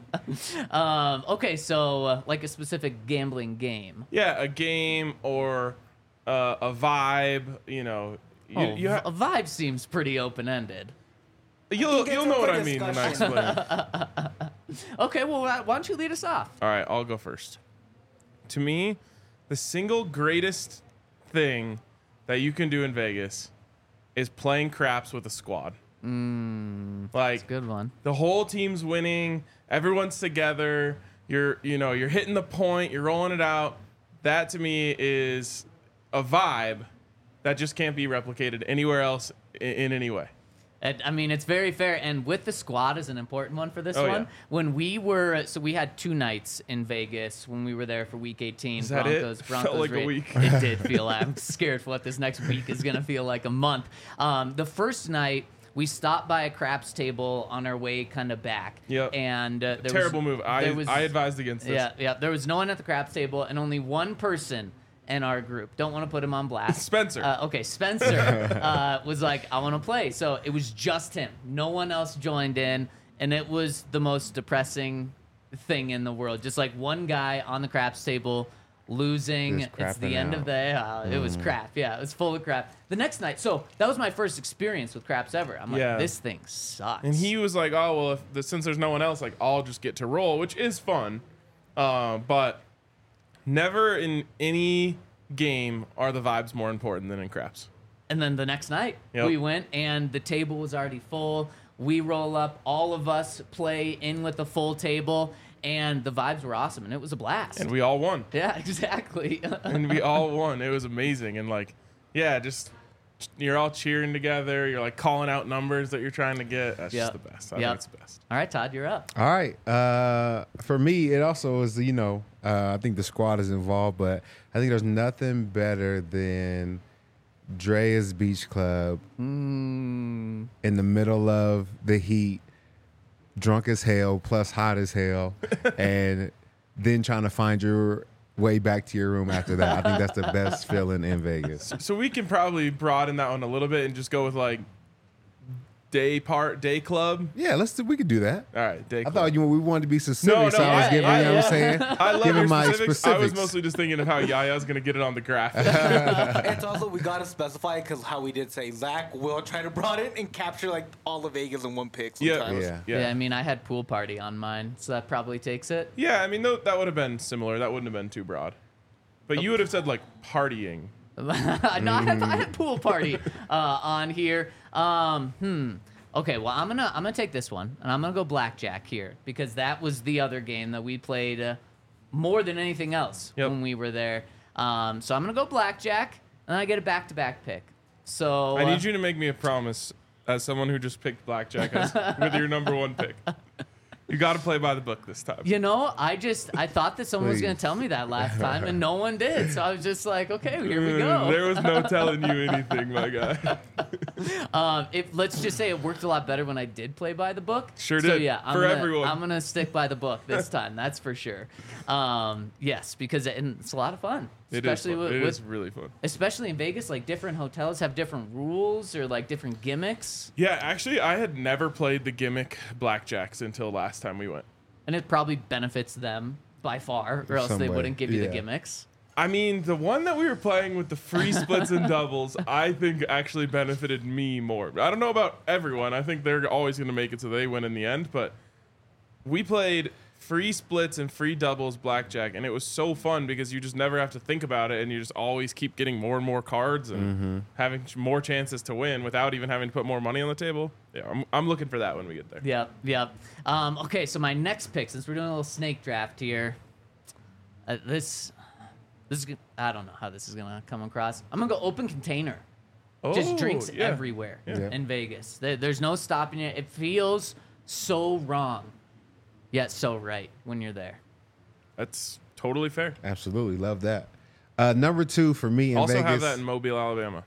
Okay, so like a specific gambling game. Yeah, a game or a vibe, you know. You A vibe seems pretty open-ended. you'll it's know up what for I mean when I discussion. explain it. Okay, well, why don't you lead us off? All right, I'll go first. To me, the single greatest thing that you can do in Vegas is playing craps with a squad. Like, Good one. the whole team's winning, everyone's together, you're hitting the point, you're rolling it out. That to me is a vibe that just can't be replicated anywhere else in any way. I mean, it's very fair, and with the squad is an important one for this Oh, one. yeah. When we had 2 nights in Vegas when we were there for Week 18. Is that it? Felt like a raid. week. It did feel. I'm scared for what this next week is gonna feel like. A month. The first night we stopped by a craps table on our way kind of back. Yep. And there Terrible was, move. I advised against this. Yeah. There was no one at the craps table, and only one person in our group. Don't want to put him on blast. Spencer. Okay, Spencer was like, I want to play. So it was just him. No one else joined in. And it was the most depressing thing in the world. Just like one guy on the craps table losing. Just It's the crapping end out. of the It was crap. Yeah, it was full of crap. The next night, so that was my first experience with craps ever. I'm like, Yeah. this thing sucks. And he was like, "Oh well, since there's no one else, like I'll just get to roll," which is fun, but never in any game are the vibes more important than in craps. And then the next night, Yep. we went, and the table was already full. We roll up, all of us play in with the full table, and the vibes were awesome, and it was a blast. And we all won. Yeah, exactly. And we all won. It was amazing. And like, yeah, just you're all cheering together. You're like calling out numbers that you're trying to get. That's just the best. I think it's the best. All right, Todd, you're up. All right. For me, it also is, I think the squad is involved, but I think there's nothing better than Drea's Beach Club in the middle of the heat, drunk as hell, plus hot as hell, and then trying to find your way back to your room after that. I think that's the best feeling in Vegas. So we can probably broaden that one a little bit and just go with like day club. Yeah, we could do that. All right, day I club. thought we wanted to be specific, No, so I was yeah, giving, yeah, you know what I'm saying? I love Giving your my specifics. I was specifics. mostly just thinking of how Yaya's going to get it on the graph. It's also, we gotta specify because how we did say Zach will try to broaden and capture like all of Vegas in one pick sometimes. Yeah. I mean, I had pool party on mine, so that probably takes it. Yeah, I mean, that would have been similar. That wouldn't have been too broad. But you would have said, like, partying. No, I had pool party on here. Okay, well, I'm gonna take this one, and I'm gonna go blackjack here because that was the other game that we played more than anything else when we were there. So I'm gonna go blackjack, and I get a back-to-back pick. So I need you to make me a promise as someone who just picked blackjack with your number one pick. You got to play by the book this time. You know, I thought that someone was Please. going to tell me that last time, and no one did. So I was just like, okay, here we go. There was no telling you anything, my guy. Let's just say it worked a lot better when I did play by the book. Sure so, did. Yeah, For everyone. I'm gonna stick by the book this time. That's for sure. Yes, because it's a lot of fun. It is Especially fun. It with is really fun. especially in Vegas, like different hotels have different rules or like different gimmicks, Yeah, actually, I had never played the gimmick blackjacks until last time we went. and it probably benefits them by far, or else they Some way, wouldn't give you the yeah. gimmicks. I mean, the one that we were playing with the free splits and doubles, I think actually benefited me more. I don't know about everyone. I think they're always going to make it so they win in the end. But we played free splits and free doubles blackjack, and it was so fun because you just never have to think about it, and you just always keep getting more and more cards and having more chances to win without even having to put more money on the table. Yeah, I'm looking for that when we get there. Yep. Okay, so my next pick, since we're doing a little snake draft here, this is I don't know how this is gonna come across. I'm gonna go open container. Just drinks everywhere in Vegas. There's no stopping it. It feels so wrong, yet so right when you're there. That's totally fair. Absolutely. Love that. Number 2 for me in also Vegas. have that in Mobile, Alabama.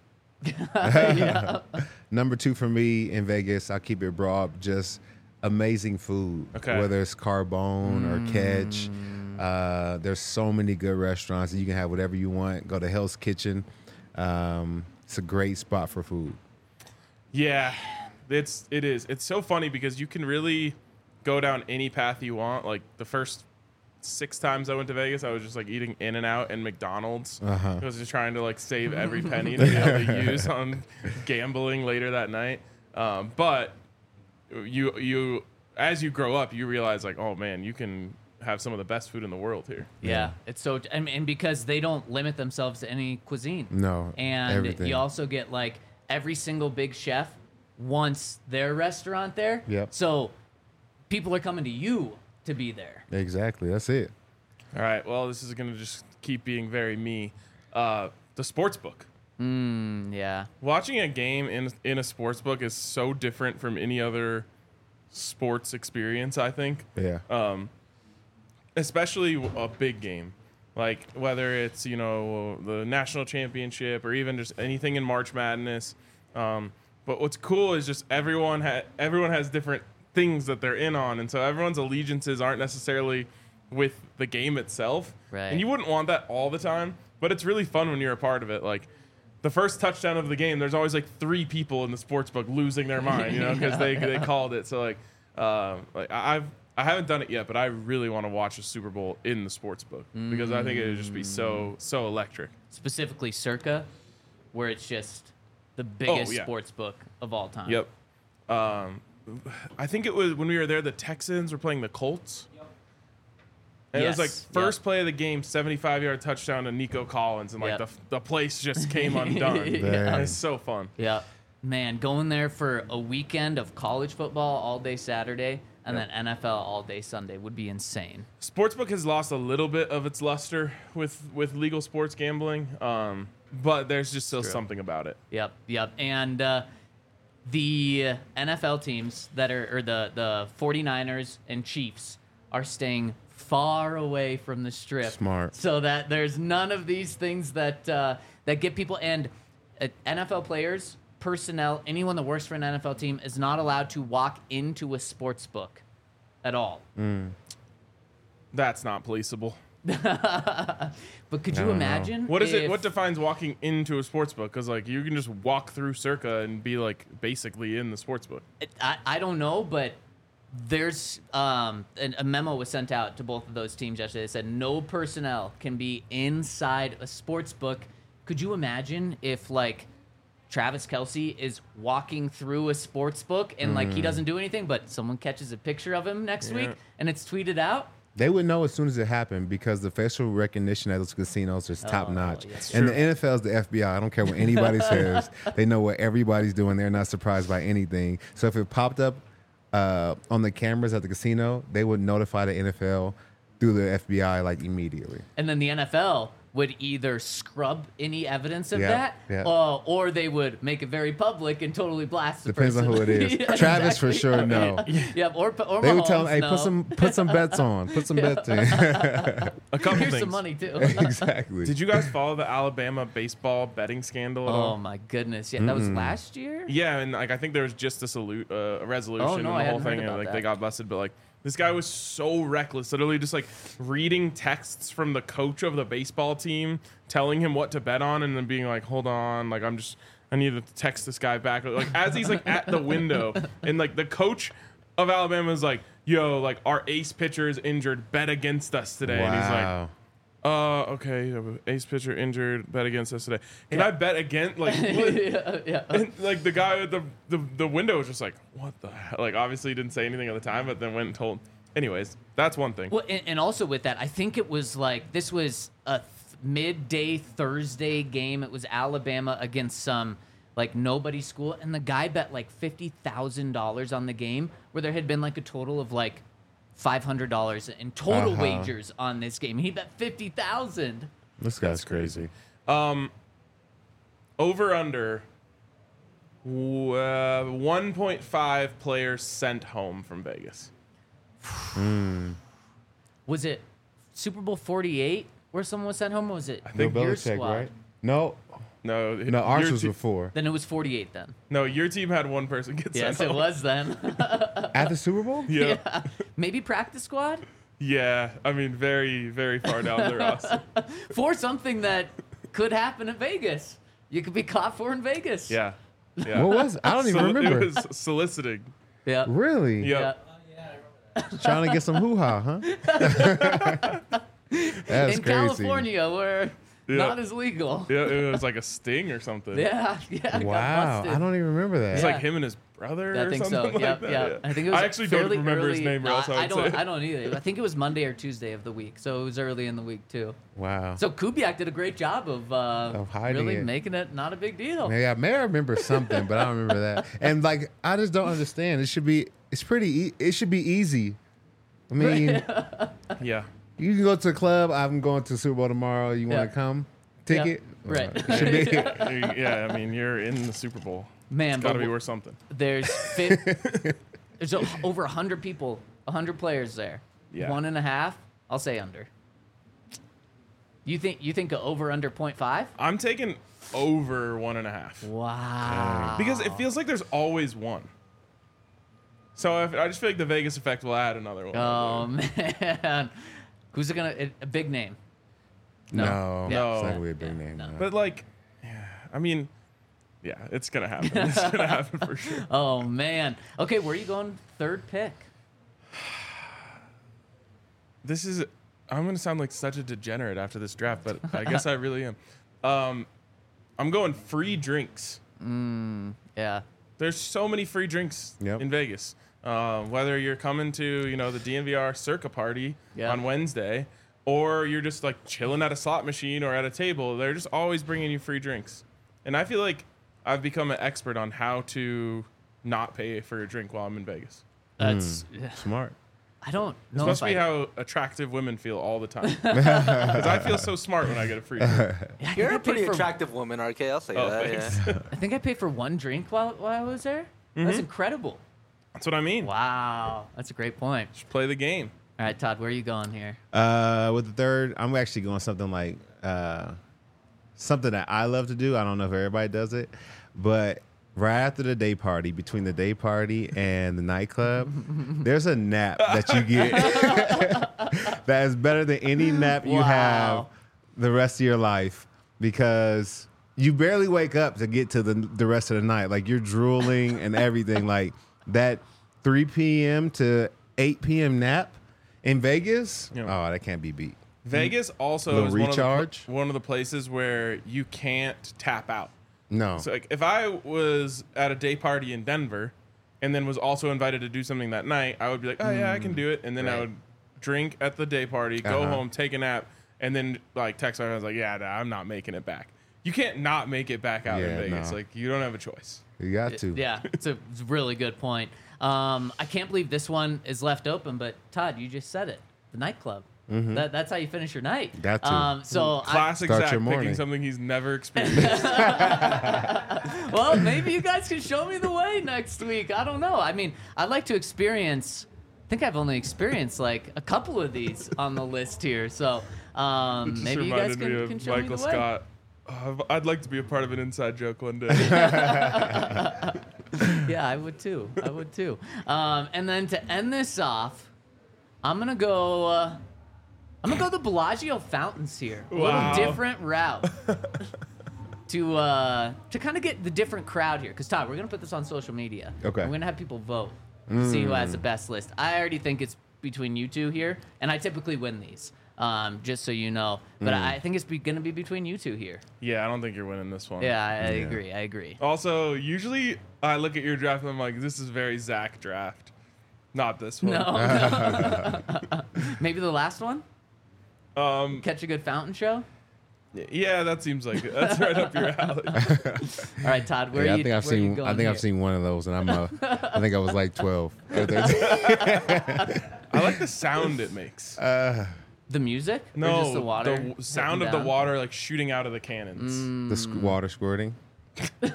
Number 2 for me in Vegas, I'll keep it broad, just amazing food. Okay. Whether it's Carbone or Catch. There's so many good restaurants. You can have whatever you want. Go to Hell's Kitchen. It's a great spot for food. Yeah, it is. It's so funny because you can really go down any path you want. Like the first 6 times I went to Vegas, I was just like eating In-N-Out and McDonald's. I was just trying to like save every penny to be able to use on gambling later that night. But you as you grow up, you realize like, oh man, you can have some of the best food in the world here. Yeah, it's so, and because they don't limit themselves to any cuisine. No, and everything. you also get like every single big chef wants their restaurant there. Yep. So people are coming to you to be there. Exactly. That's it. All right. Well, this is going to just keep being very me. The sports book. Yeah. Watching a game in a sports book is so different from any other sports experience, I think. Yeah. Especially a big game, like whether it's the national championship or even just anything in March Madness. But what's cool is just everyone has different things that they're in on, and so everyone's allegiances aren't necessarily with the game itself. Right. And you wouldn't want that all the time, but it's really fun when you're a part of it. Like the first touchdown of the game, there's always like 3 people in the sports book losing their mind, because they called it. So I haven't done it yet, but I really want to watch a Super Bowl in the sports book because I think it would just be so electric. Specifically Circa, where it's just the biggest sports book of all time. Yep. I think it was when we were there, the Texans were playing the Colts. Yep. And it was like first play of the game, 75-yard touchdown to Nico Collins, and like the place just came undone. It's so fun. Yeah. Man, going there for a weekend of college football all day Saturday and then NFL all day Sunday would be insane. Sportsbook has lost a little bit of its luster with legal sports gambling, but there's just still something about it. Yep. And the NFL teams that are, or the 49ers and Chiefs are staying far away from the strip. Smart. So that there's none of these things that get people, and NFL players, personnel, anyone that works for an NFL team is not allowed to walk into a sports book at all. That's not policeable. But could you imagine? What is it? What defines walking into a sports book? Because like you can just walk through Circa and be like basically in the sports book. I don't know, but there's a memo was sent out to both of those teams yesterday. They said no personnel can be inside a sports book. Could you imagine if like Travis Kelce is walking through a sports book and like he doesn't do anything, but someone catches a picture of him next week and it's tweeted out? They would know as soon as it happened because the facial recognition at those casinos is top notch. Yes. And the NFL is the FBI. I don't care what anybody says. They know what everybody's doing. They're not surprised by anything. So if it popped up on the cameras at the casino, they would notify the NFL through the FBI like immediately. And then the NFL would either scrub any evidence of Yeah. or they would make it very public and totally blast the Depends person. on who it is. Yeah, Travis exactly. for sure, no. Yeah, or They would tell him, hey, Mahomes, put some bets on. Put some bets in. A couple Here's things. some money too. Exactly. Did you guys follow the Alabama baseball betting scandal at all? Oh my goodness! Yeah, that was last year. Yeah, and like I think there was just a resolution Oh, no, and the I whole hadn't thing, heard and about like that. they got busted. But like this guy was so reckless, literally just like reading texts from the coach of the baseball team, telling him what to bet on, and then being like, "Hold on, like I need to text this guy back." Like as he's like at the window, and like the coach of Alabama is like, "Yo, like our ace pitcher is injured. Bet against us today." And he's like, Okay. Ace pitcher injured. Bet against us today. Can I bet again? Like, what? yeah. And, like the guy at the window was just like, what the hell? Like, obviously he didn't say anything at the time, but then went and told. Anyways, that's one thing. Well, and also with that, I think it was like this was a midday Thursday game. It was Alabama against some like nobody school, and the guy bet like $50,000 on the game, where there had been like a total of like $500 in total wagers on this game. He bet 50,000. This guy's crazy. Over under 1.5 players sent home from Vegas. Was it Super Bowl 48 where someone was sent home? Or was it think Bill your Belichick, squad? right? No, No, ours your was te- before. Then it was 48 then. No, your team had one person get Yes, sent it home. was then. At the Super Bowl? Yeah. Maybe practice squad Yeah. I mean, very, very far down the roster. for something that could happen in Vegas. You could be caught for in Vegas. Yeah. Yeah. What was it? I don't even remember. It was soliciting. Yeah. Really? Yeah. Trying to get some hoo-ha, huh? That's In crazy. California, where Yeah. not as legal. Yeah, it was like a sting or something. Yeah. Got Wow, busted. I don't even remember that. It's Yeah. like him and his brother I or think something so. like Yep, that. yep. Yeah. I think it was actually don't fairly remember early. his name, or else I I would say. don't either. I think it was Monday or Tuesday of the week, so it was early in the week too. Wow. So Kubiak did a great job of hiding really it. making it not a big deal. Maybe I may remember something, but I don't remember that. And like, I just don't understand. It should be. It's pretty. It should be easy. I mean, Yeah. you can go to a club. I'm going to Super Bowl tomorrow. You want Yeah. to come? Ticket. Right. It should be. Yeah, I mean, you're in the Super Bowl. Man, It's got to but be worth something. there's over 100 people, 100 players there. Yeah. 1.5. I'll say under. You think a over under 0.5? I'm taking over 1.5 Wow. because it feels like there's always one. So I just feel like the Vegas effect will add another one. Oh man, who's it gonna? A big name? No, Yeah. it's not gonna be a big name. no. no. But like, yeah, I mean, yeah, it's gonna happen. It's gonna happen for sure. Oh man. Okay, where are you going? Third pick. I'm gonna sound like such a degenerate after this draft, but I guess I really am. I'm going free drinks. Yeah. There's so many free drinks Yep. in Vegas. Whether you're coming to, the DNVR Circa party Yeah. on Wednesday, or you're just like chilling at a slot machine or at a table, they're just always bringing you free drinks. And I feel like I've become an expert on how to not pay for a drink while I'm in Vegas. That's. Smart. I don't This know. must if be I, how attractive women feel all the time. Because I feel so smart when I get a free drink. Yeah, I think You're I a paid pretty for- attractive woman, RK. I'll say Oh, that. thanks. Yeah. I think I paid for one drink while I was there. Mm-hmm. That's incredible. That's what I mean. Wow, that's a great point. Just play the game. All right, Todd, where are you going here? With the third, I'm actually going something like something that I love to do. I don't know if everybody does it, but right after the day party, between the day party and the nightclub, there's a nap that you get that is better than any nap you have Wow. the rest of your life, because you barely wake up to get to the rest of the night. Like, you're drooling and everything. Like, that 3 p.m. to 8 p.m. nap in Vegas, Yeah. oh, that can't be beat. Vegas also Little is recharge? one of the places where you can't tap out. No. So like, if I was at a day party in Denver and then was also invited to do something that night, I would be like, oh yeah, I can do it. And then I Right. would drink at the day party, go Uh-huh. home, take a nap, and then like text my friends like, yeah, nah, I'm not making it back. You can't not make it back out in Yeah, Vegas. no. Like, you don't have a choice. You got to. Yeah, it's a really good point. I can't believe this one is left open, but Todd, you just said it. The nightclub. That's how you finish your night. Got to. So Classic Start Zach your picking morning. something he's never experienced. well, maybe you guys can show me the way next week. I don't know. I mean, I'd like to experience. I think I've only experienced like a couple of these on the list here. So Just maybe you guys reminded me can of show me Michael the way. Scott. I'd like to be a part of an inside joke one day. Yeah, I would too. I would too. And then to end this off, I'm gonna go the Bellagio fountains here. A Wow. little different route to kind of get the different crowd here. Because Todd, we're gonna put this on social media. Okay. We're gonna have people vote to see who has the best list. I already think it's between you two here, and I typically win these. just so you know. But I think it's going to be between you two here. Yeah, I don't think you're winning this one. Yeah, I agree. I agree. Also, usually I look at your draft and I'm like, this is very Zach draft. Not this one. No. Maybe the last one? Catch a Good Fountain Show? Yeah, that seems like it. That's right up your alley. All right, Todd, where are you, I've where are you seen. going I think here? I've seen one of those, and I think I was like 12. I like the sound it makes. The music? Or No, just the water? the sound hitting of the down? water like shooting out of the cannons. Water squirting. He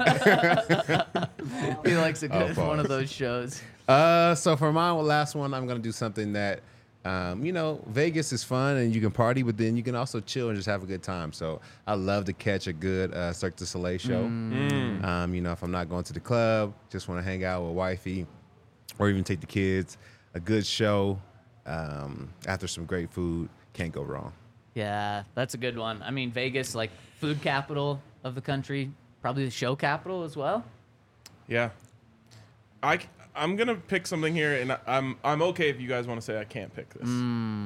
likes a good one of pause. those shows. So for my last one, I'm gonna do something that, Vegas is fun and you can party, but then you can also chill and just have a good time. So I love to catch a good Cirque du Soleil show. If I'm not going to the club, just want to hang out with wifey, or even take the kids. A good show after some great food, can't go wrong. Yeah, that's a good one. I mean, Vegas, like food capital of the country, probably the show capital as well. Yeah. I'm gonna pick something here, and I'm okay if you guys want to say I can't pick this.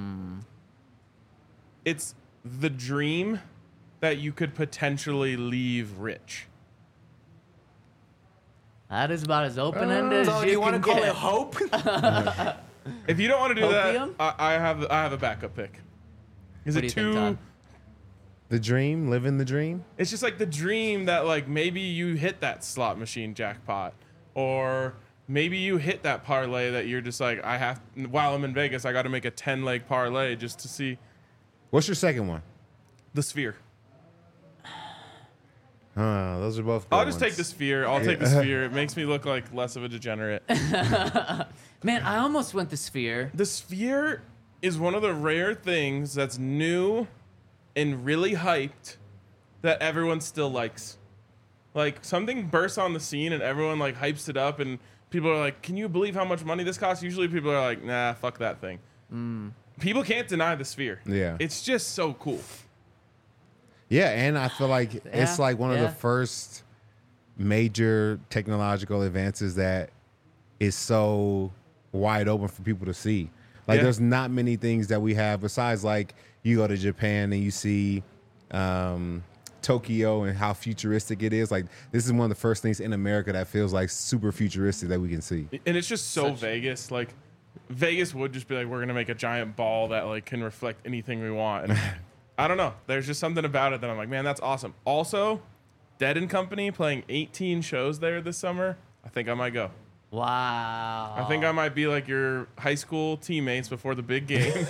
It's the dream that you could potentially leave rich. That is about as open-ended So as do you you want to can call get. it hope? If you don't want to do Opium? that, I have a backup pick. Is What it do you too? think, Todd? The dream, living the dream. It's just like the dream that like maybe you hit that slot machine jackpot, or maybe you hit that parlay that you're just like, while I'm in Vegas, I got to make a 10-leg parlay just to see What's your second one? the Sphere. Those are both. Good I'll just ones. take the Sphere. I'll take the Sphere. It makes me look like less of a degenerate. Man, I almost went the Sphere. The Sphere is one of the rare things that's new and really hyped that everyone still likes. Like something bursts on the scene and everyone like hypes it up and people are like, "Can you believe how much money this costs?" Usually people are like, "Nah, fuck that thing." People can't deny the Sphere. Yeah. It's just so cool. Yeah, and I feel like it's Yeah, like one of yeah. the first major technological advances that is so wide open for people to see. Like, Yeah. there's not many things that we have besides like you go to Japan and you see Tokyo and how futuristic it is. Like, this is one of the first things in America that feels like super futuristic that we can see. And it's just so Vegas. Like Vegas would just be like, we're gonna make a giant ball that like can reflect anything we want. And I don't know. There's just something about it that I'm like, man, that's awesome. Also, Dead and Company playing 18 shows there this summer. I think I might go. Wow. I think I might be like your high school teammates before the big game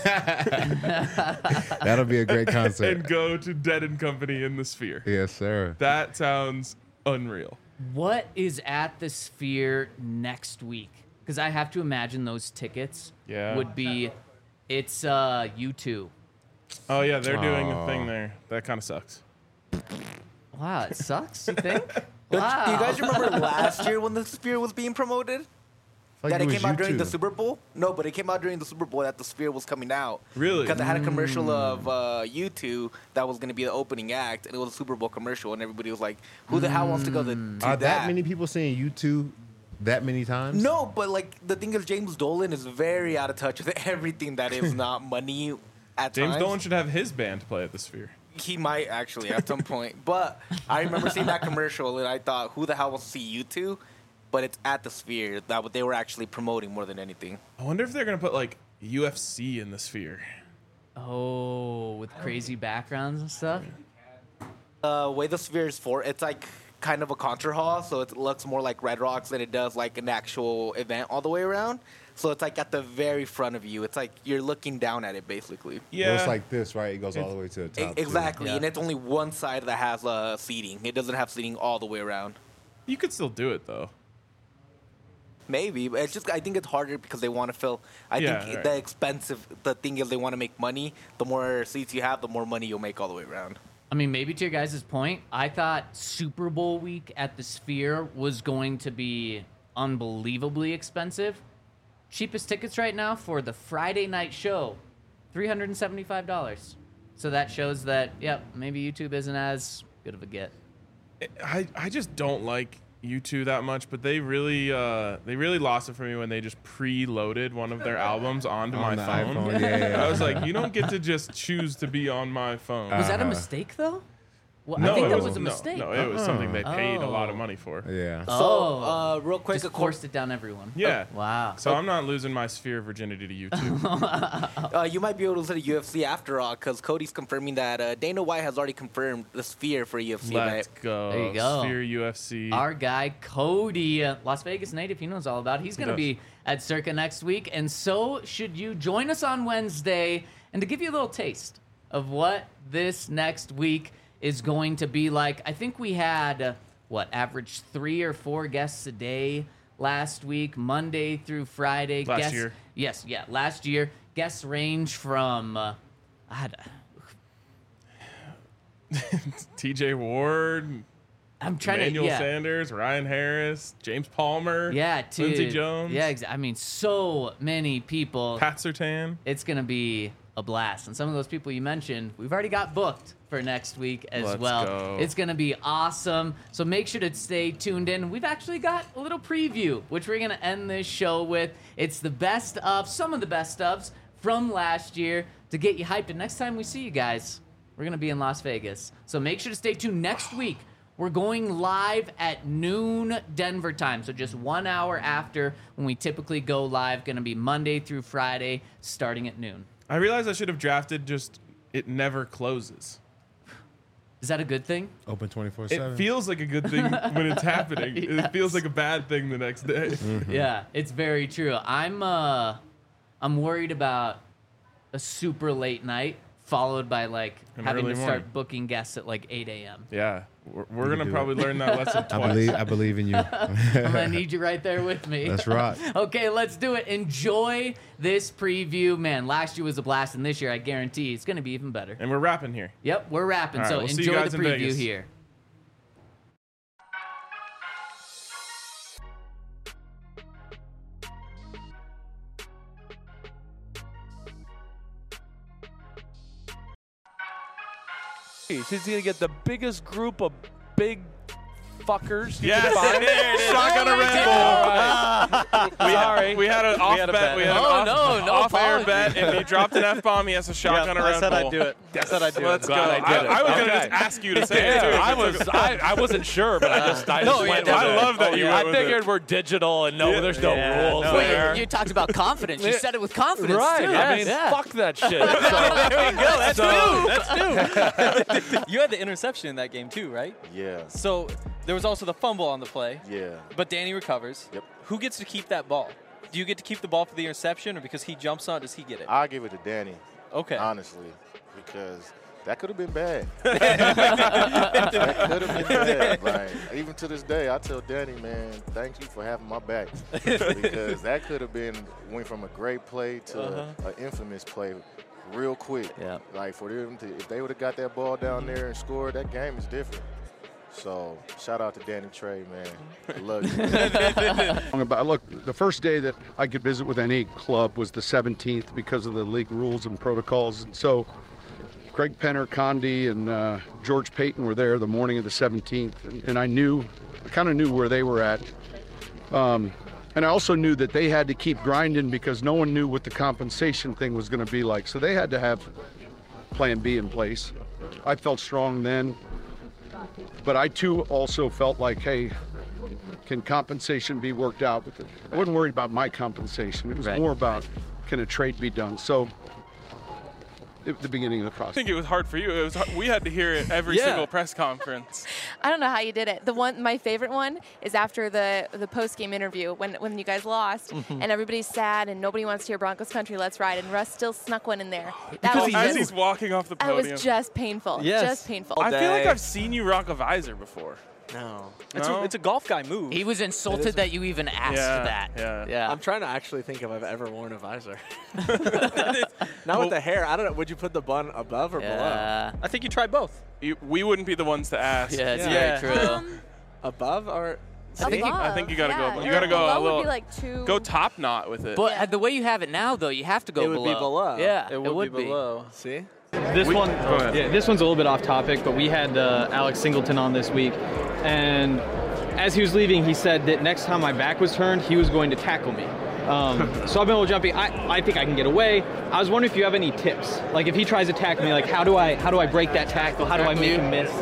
That'll be a great and concert. go to Dead and Company in the Sphere. Yes, sir. That sounds unreal. What is at the Sphere next week? Because I have to imagine those tickets Yeah. would be. It's U2. Oh yeah, they're doing a Aw. thing there. That kind of sucks. Wow, it sucks. You think? Do Wow. you guys remember last year when the Sphere was being promoted? Like That it was came out during the YouTube. Super Bowl? No, but it came out during the Super Bowl that the Sphere was coming out. Really? Because it had a commercial of U2 that was going to be the opening act, and it was a Super Bowl commercial, and everybody was like, who the hell wants to go to Are that? that many people seeing YouTube that many times? No, but like the thing is, James Dolan is very out of touch with everything that is not money at James times. Dolan should have his band play at the Sphere. He might actually at some point. But I remember seeing that commercial and I thought, who the hell wants to see you two? But it's at the Sphere that what they were actually promoting more than anything. I wonder if they're gonna put like UFC in the Sphere. Oh, with crazy backgrounds and stuff. Way the Sphere is for, it's like kind of a concert hall, so it looks more like Red Rocks than it does like an actual event all the way around. So it's like at the very front of you. It's like you're looking down at it basically. Yeah, Well, it's like this, right? It goes all the way to the top. too. Exactly, Yeah. and it's only one side that has seating. It doesn't have seating all the way around. you could still do it though. Maybe, but it's just I think it's harder because they want to fill. I Yeah, think right. the thing is they want to make money. The more seats you have, the more money you'll make all the way around. I mean, maybe to your guys' point, I thought Super Bowl week at the Sphere was going to be unbelievably expensive. Cheapest tickets right now for the Friday night show, $375. So that shows that, yep, maybe YouTube isn't as good of a get. I just don't like U2 that much, but they really lost it for me when they just preloaded one of their albums onto my the phone. iPhone, yeah. I was like, you don't get to just choose to be on my phone. Was that a mistake though? Well, no, I think it that was a no, mistake. No, it was something they paid a lot of money for. Yeah. So, real quick, Just forced it down everyone. Yeah. Wow. So I'm not losing my sphere of virginity to YouTube. you might be able to listen to UFC after all, because Cody's confirming that Dana White has already confirmed the sphere for UFC. Let's right? go. There you go. Sphere UFC. Our guy Cody, Las Vegas native, he knows all about it. He's going to does. be at Circa next week, and so should you. Join us on Wednesday. And to give you a little taste of what this next week is going to be like, I think we had, average 3 or 4 guests a day last week, Monday through Friday. Last year. Yes, yeah, last year. Guests range from, TJ Ward, I'm trying Emmanuel to, yeah. Sanders, Ryan Harris, James Palmer, Yeah, dude. Lindsey Jones, Yeah, I mean, so many people. Pat Surtain. It's going to be a blast. And some of those people you mentioned, we've already got booked for next week as Let's well. go. It's going to be awesome. So make sure to stay tuned in. We've actually got a little preview, which we're going to end this show with. It's the best of, some of the best ofs from last year to get you hyped. And next time we see you guys, we're going to be in Las Vegas. So make sure to stay tuned next week. We're going live at noon Denver time, so just 1 hour after when we typically go live. Going to be Monday through Friday, starting at noon. I realized I should have drafted just it never closes. Is that a good thing? Open 24/7. It feels like a good thing when it's happening. Yes. It feels like a bad thing the next day. Yeah, it's very true. I'm worried about a super late night followed by like An having to early start morning. booking guests at like 8 a.m. Yeah, we're You gonna do probably learn that lesson twice. I believe in you. I'm gonna need you right there with me. Let's rock. Okay, let's do it. Enjoy this preview. Man, last year was a blast, and this year I guarantee it's gonna be even better. And we're wrapping here. Yep, we're wrapping. All right, So we'll see you enjoy guys the in preview Vegas. here. She's gonna get the biggest group of big fuckers. you Yes, can find. there it is. Shotgun a Red Bull. All right. Sorry. We had an off had a bet. bet. We had an Oh, no off-air apology. bet. If he dropped an F-bomb, he has a shotgun a Red I said Bull. I'd do it. I said I'd do Let's it. go. Glad I did it. I was gonna Okay. just ask you to say it too. I wasn't sure, but I just No, went yeah, with I it. love that you I went with figured it. we're digital and there's no rules no. there. You talked about confidence. You said it with confidence Right. too. I mean, fuck that shit. So, There we go. That's so, You had the interception in that game too, right? Yeah, So there was also the fumble on the play, yeah. but Danny recovers. Yep. Who gets to keep that ball? Do you get to keep the ball for the interception, or because he jumps on it, does he get it? I give it to Danny, Okay. honestly, because that could have been bad. That could have been bad. Like, even to this day, I tell Danny, man, thank you for having my back, because that could have went from a great play to an infamous play real quick. Yeah. Like, for them to, if they would have got that ball down there and scored, that game is different. So, shout out to Danny Trey, man. I love you. Look, the first day that I could visit with any club was the 17th because of the league rules and protocols. And so Craig Penner, Condi, and George Payton were there the morning of the 17th. And I kind of knew where they were at. And I also knew that they had to keep grinding because no one knew what the compensation thing was going to be like. So they had to have plan B in place. I felt strong then. But I, too, also felt like, hey, can compensation be worked out? I wasn't worried about my compensation. It was Right. more about, can a trade be done? So, at the beginning of the I process. think it was hard for you. It was hard. We had to hear it every Yeah. single press conference. I don't know how you did it. My favorite one is after the post game interview when you guys lost and everybody's sad and nobody wants to hear Broncos country. Let's ride, and Russ still snuck one in there. That was As just, he's walking off the that podium. was just painful. Yes. Just painful. I feel like day. I've seen you rock a visor before. No. No? It's a golf guy move. He was insulted that you even asked Yeah, that. yeah. I'm trying to actually think if I've ever worn a visor. Not with the hair. I don't know. Would you put the bun above or below? Yeah. I think you tried both. We wouldn't be the ones to ask. Yeah, it's Yeah. very true. Above or? I think you gotta go. Yeah, You gotta go a below little. would be like two. Go top knot with it. But the way you have it now, though, you have to go It would below. be below. Yeah, It would be below. See? This Go one's a little bit off topic, but we had Alex Singleton on this week, and as he was leaving, he said that next time my back was turned, he was going to tackle me. So I've been able to jumping. I think I can get away. I was wondering if you have any tips. Like if he tries to tackle me, like how do I break that tackle? How do I make him miss?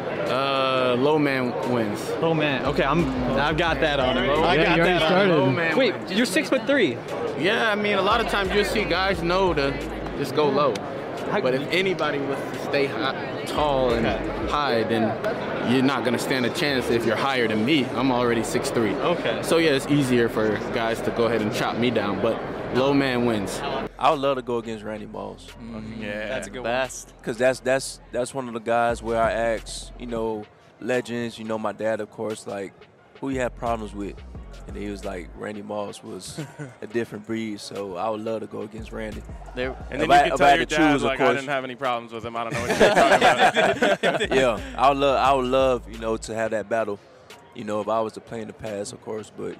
Low man wins. Low man. Okay, I've got that on him. I got that on him. Low man Wait, wins. you're 6'3". Yeah, I mean, a lot of times you'll see guys know to just go low. But if anybody was to stay tall and high, then you're not going to stand a chance if you're higher than me. I'm already 6'3". Okay. So, yeah, it's easier for guys to go ahead and chop me down, but low man wins. I would love to go against Randy Moss. Yeah, that's a good best. Because that's one of the guys where I ask, legends, my dad, of course, like, who you have problems with? And he was like, Randy Moss was a different breed, so I would love to go against Randy. And then you can tell your dad, like, I didn't have any problems with him. I don't know what you're talking about. Yeah, I would love, to have that battle, if I was to play in the past, of course. But,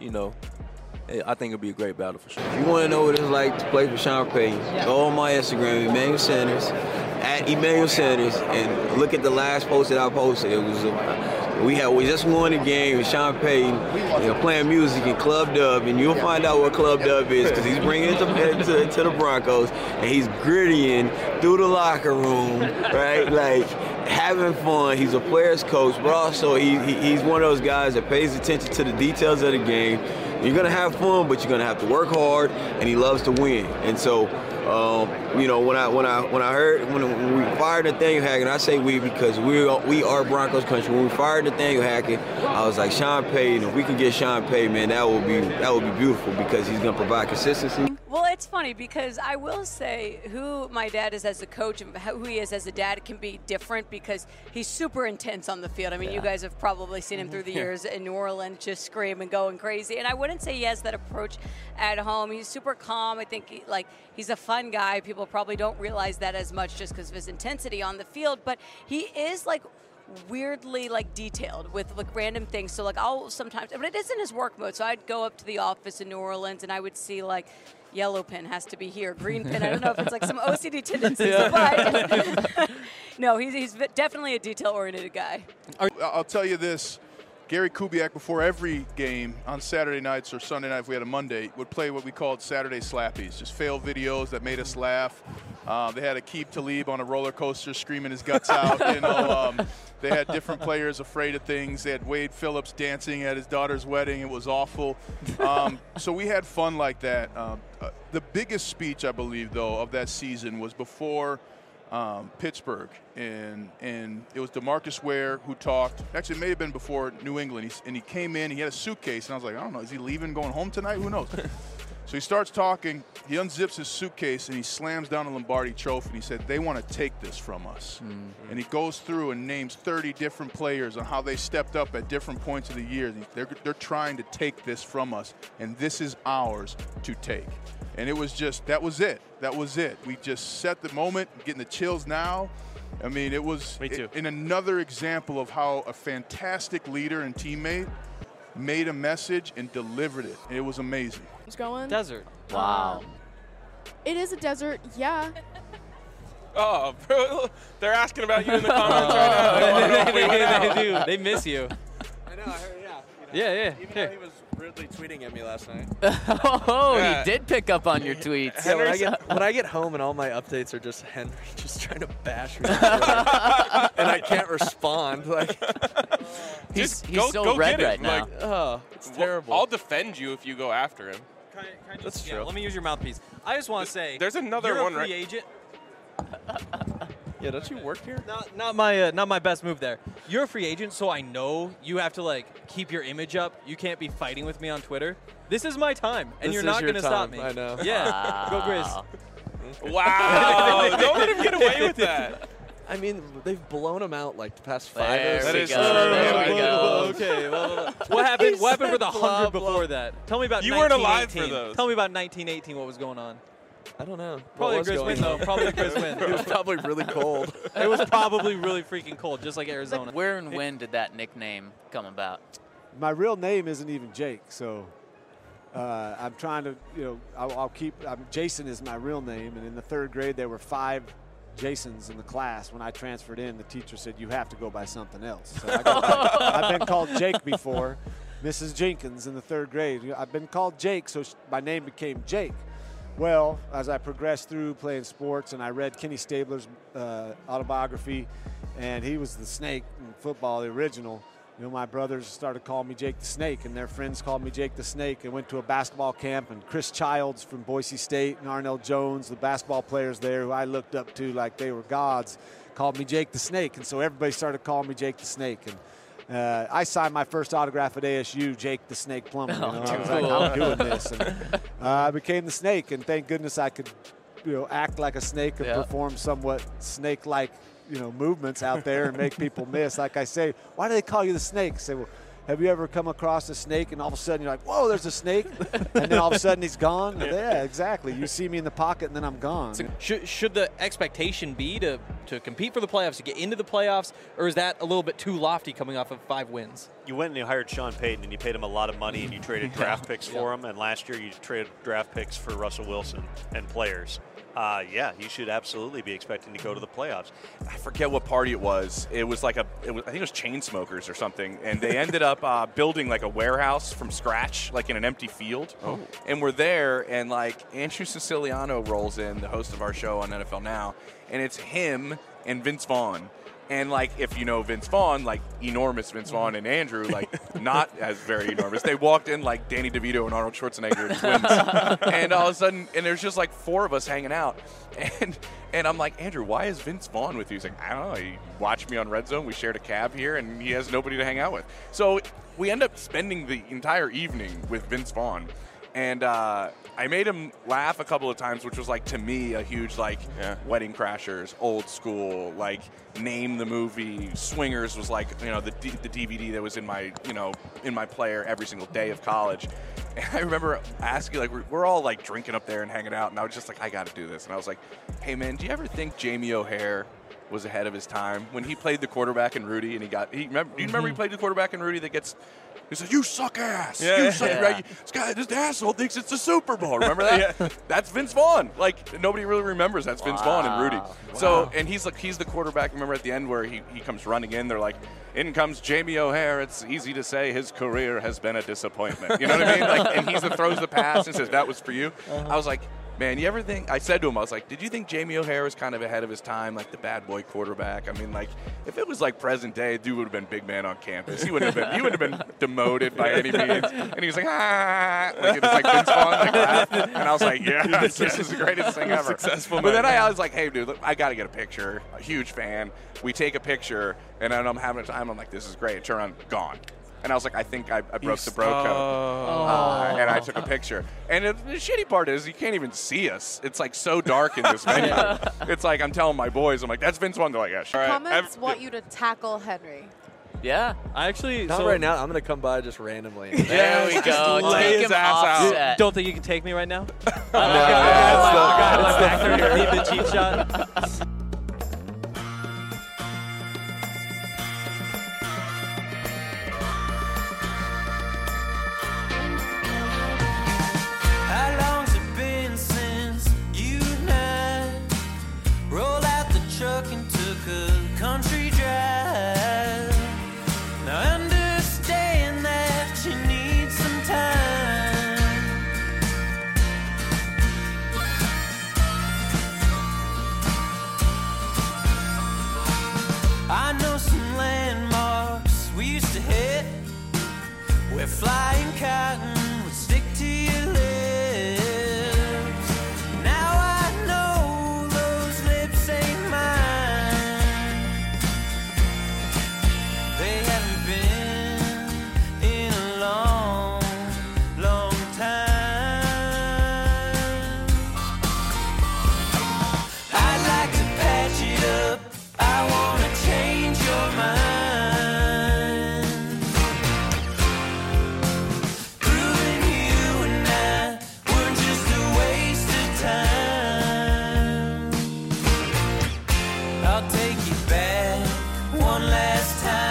I think it'd be a great battle for sure. If you want to know what it's like to play for Sean Payton, go on my Instagram, Emmanuel Sanders, @EmmanuelSanders, and look at the last post that I posted. It was we just won a game with Sean Payton, playing music in Club Dub, and you'll find out what Club Dub is because he's bringing it to the Broncos, and he's grittying through the locker room, right? Like having fun. He's a player's coach, but also he's one of those guys that pays attention to the details of the game. You're gonna have fun, but you're gonna have to work hard, and he loves to win. And so, when we fired Nathaniel Hackett, I say we because we are Broncos country. When we fired Nathaniel Hackett, I was like, Sean Payton. If we can get Sean Payton, man, that would be beautiful because he's gonna provide consistency. Well, it's funny because I will say who my dad is as a coach and who he is as a dad can be different because he's super intense on the field. I mean, you guys have probably seen him through the years in New Orleans just screaming, going crazy. And I wouldn't say he has that approach at home. He's super calm. I think he's a fun guy. People probably don't realize that as much just because of his intensity on the field. But he is weirdly detailed with random things. So I'll sometimes, but it is in his work mode. So I'd go up to the office in New Orleans and I would see yellow pin has to be here, green pin. I don't know if it's some OCD tendencies, but no, he's definitely a detail-oriented guy. I'll tell you this. Gary Kubiak, before every game on Saturday nights or Sunday night, if we had a Monday, would play what we called Saturday Slappies, just fail videos that made us laugh. They had Aqib Talib on a roller coaster screaming his guts out. They had different players afraid of things. They had Wade Phillips dancing at his daughter's wedding. It was awful. So we had fun like that. The biggest speech, I believe, though, of that season was before Pittsburgh, and it was DeMarcus Ware who talked. Actually, it may have been before New England, and he came in. He had a suitcase, and I was like, I don't know, is he leaving, going home tonight? Who knows? So he starts talking. He unzips his suitcase, and he slams down a Lombardi Trophy, and he said, they want to take this from us. Mm-hmm. And he goes through and names 30 different players on how they stepped up at different points of the year. They're trying to take this from us, and this is ours to take. And it was just, that was it. That was it. We just set the moment, getting the chills now. I mean, it was in another example of how a fantastic leader and teammate made a message and delivered it. And it was amazing. What's going? Desert. Wow. It is a desert, yeah. Oh, bro, they're asking about you in the comments right now. They do. They miss you. I know, I heard, Yeah. Even though he was rudely tweeting at me last night. He did pick up on your tweets. Yeah, when I get home and all my updates are just Henry just trying to bash me, and I can't respond. He's so red right now. It's terrible. I'll defend you if you go after him. That's true. Yeah, let me use your mouthpiece. I just want to say, there's another you're one, a free right? agent. Yeah, don't you work here? Not my best move there. You're a free agent, so I know you have to keep your image up. You can't be fighting with me on Twitter. This is my time, and you're not going to stop me. I know. Yeah, go Grizz. Wow! Don't let him get away with that. I mean, they've blown him out the past 5 There or 6 we years. go. There we go. Okay. What happened? What happened for the 100 before that? Tell me about. You weren't alive 1918. for those. Tell me about 1918. What was going on? I don't know. Probably a Grizz win, though. Probably a Grizz win. It was probably really cold. It was probably really freaking cold, just like Arizona. Where and when did that nickname come about? My real name isn't even Jake, so I'm trying to, I'll keep. Jason is my real name, and in the 3rd grade there were 5 Jasons in the class. When I transferred in, the teacher said, you have to go by something else. So I've been called Jake before. Mrs. Jenkins in the 3rd grade. I've been called Jake, so my name became Jake. Well, as I progressed through playing sports and I read Kenny Stabler's autobiography, and he was the Snake in football, the original, my brothers started calling me Jake the Snake, and their friends called me Jake the Snake. I went to a basketball camp, and Chris Childs from Boise State and Arnell Jones, the basketball players there who I looked up to like they were gods, called me Jake the Snake. And so everybody started calling me Jake the Snake. And I signed my first autograph at ASU, Jake the Snake Plummer. I was like, I'm doing this. And I became the Snake, and thank goodness I could act like a snake and perform somewhat snake-like movements out there and make people miss. Like I say, why do they call you the Snake? I say, well, have you ever come across a snake and all of a sudden you're like, whoa, there's a snake, and then all of a sudden he's gone? Yeah, exactly. You see me in the pocket and then I'm gone. So should the expectation be to compete for the playoffs, to get into the playoffs, or is that a little bit too lofty coming off of 5 wins? You went and you hired Sean Payton and you paid him a lot of money and you traded draft picks for him, and last year you traded draft picks for Russell Wilson and players. You should absolutely be expecting to go to the playoffs. I forget what party it was. It was like I think it was Chainsmokers or something, and they ended up building like a warehouse from scratch, like in an empty field. Oh. And we're there, and like Andrew Siciliano rolls in, the host of our show on NFL Now, and it's him and Vince Vaughn. And, like, if you know Vince Vaughn, like, enormous Vince Vaughn and Andrew, like, not as very enormous. They walked in like Danny DeVito and Arnold Schwarzenegger twins. And all of a sudden, and there's just, like, 4 of us hanging out. And I'm like, Andrew, why is Vince Vaughn with you? He's like, I don't know. He watched me on Red Zone. We shared a cab here, and he has nobody to hang out with. So we end up spending the entire evening with Vince Vaughn. And I made him laugh a couple of times, which was, like, to me, a huge, like, Wedding Crashers, Old School, like, Name the Movie. Swingers was, like, the DVD that was in my, in my player every single day of college. And I remember asking, like, we're all, like, drinking up there and hanging out, and I was just like, I got to do this. And I was like, hey, man, do you ever think Jamie O'Hare was ahead of his time when he played the quarterback in Rudy, and do you remember he played the quarterback in Rudy that gets... He said, you suck ass. You suck. Right? This asshole thinks it's the Super Bowl. Remember that? That's Vince Vaughn. Like, nobody really remembers that's Vince Vaughn and Rudy. Wow. So, and he's the quarterback. Remember at the end where he comes running in, they're like, in comes Jamie O'Hare. It's easy to say his career has been a disappointment. You know what I mean? Like, and he's the throws the pass and says, that was for you. I was like, man, you ever think, I said to him, I was like, did you think Jamie O'Hare was kind of ahead of his time, like the bad boy quarterback? I mean, like, if it was like present day, dude would have been big man on campus. He wouldn't have been demoted by any means. And he was like, like it was like Vince Vaughn, like that. And I was like, yeah, this is the greatest thing ever. Successful. But then I was like, hey, dude, look, I got to get a picture. A huge fan. We take a picture, and then I'm having a time. I'm like, this is great. Turn around, gone. And I was like, I think I broke the bro code. And I took a picture. And the shitty part is you can't even see us. It's like so dark in this venue. It's like I'm telling my boys, I'm like, that's Vince Vaughn. They're like, yeah, sure. Comments want you to tackle Henry. Yeah. I actually... Not right now. I'm going to come by just randomly. There we go. Take him off. Don't think you can take me right now? Leave the cheap shot. Truck and took a country drive. Now understand that you need some time. I know some landmarks we used to hit, where flying cotton would stick to your lips. I'll take you back one last time.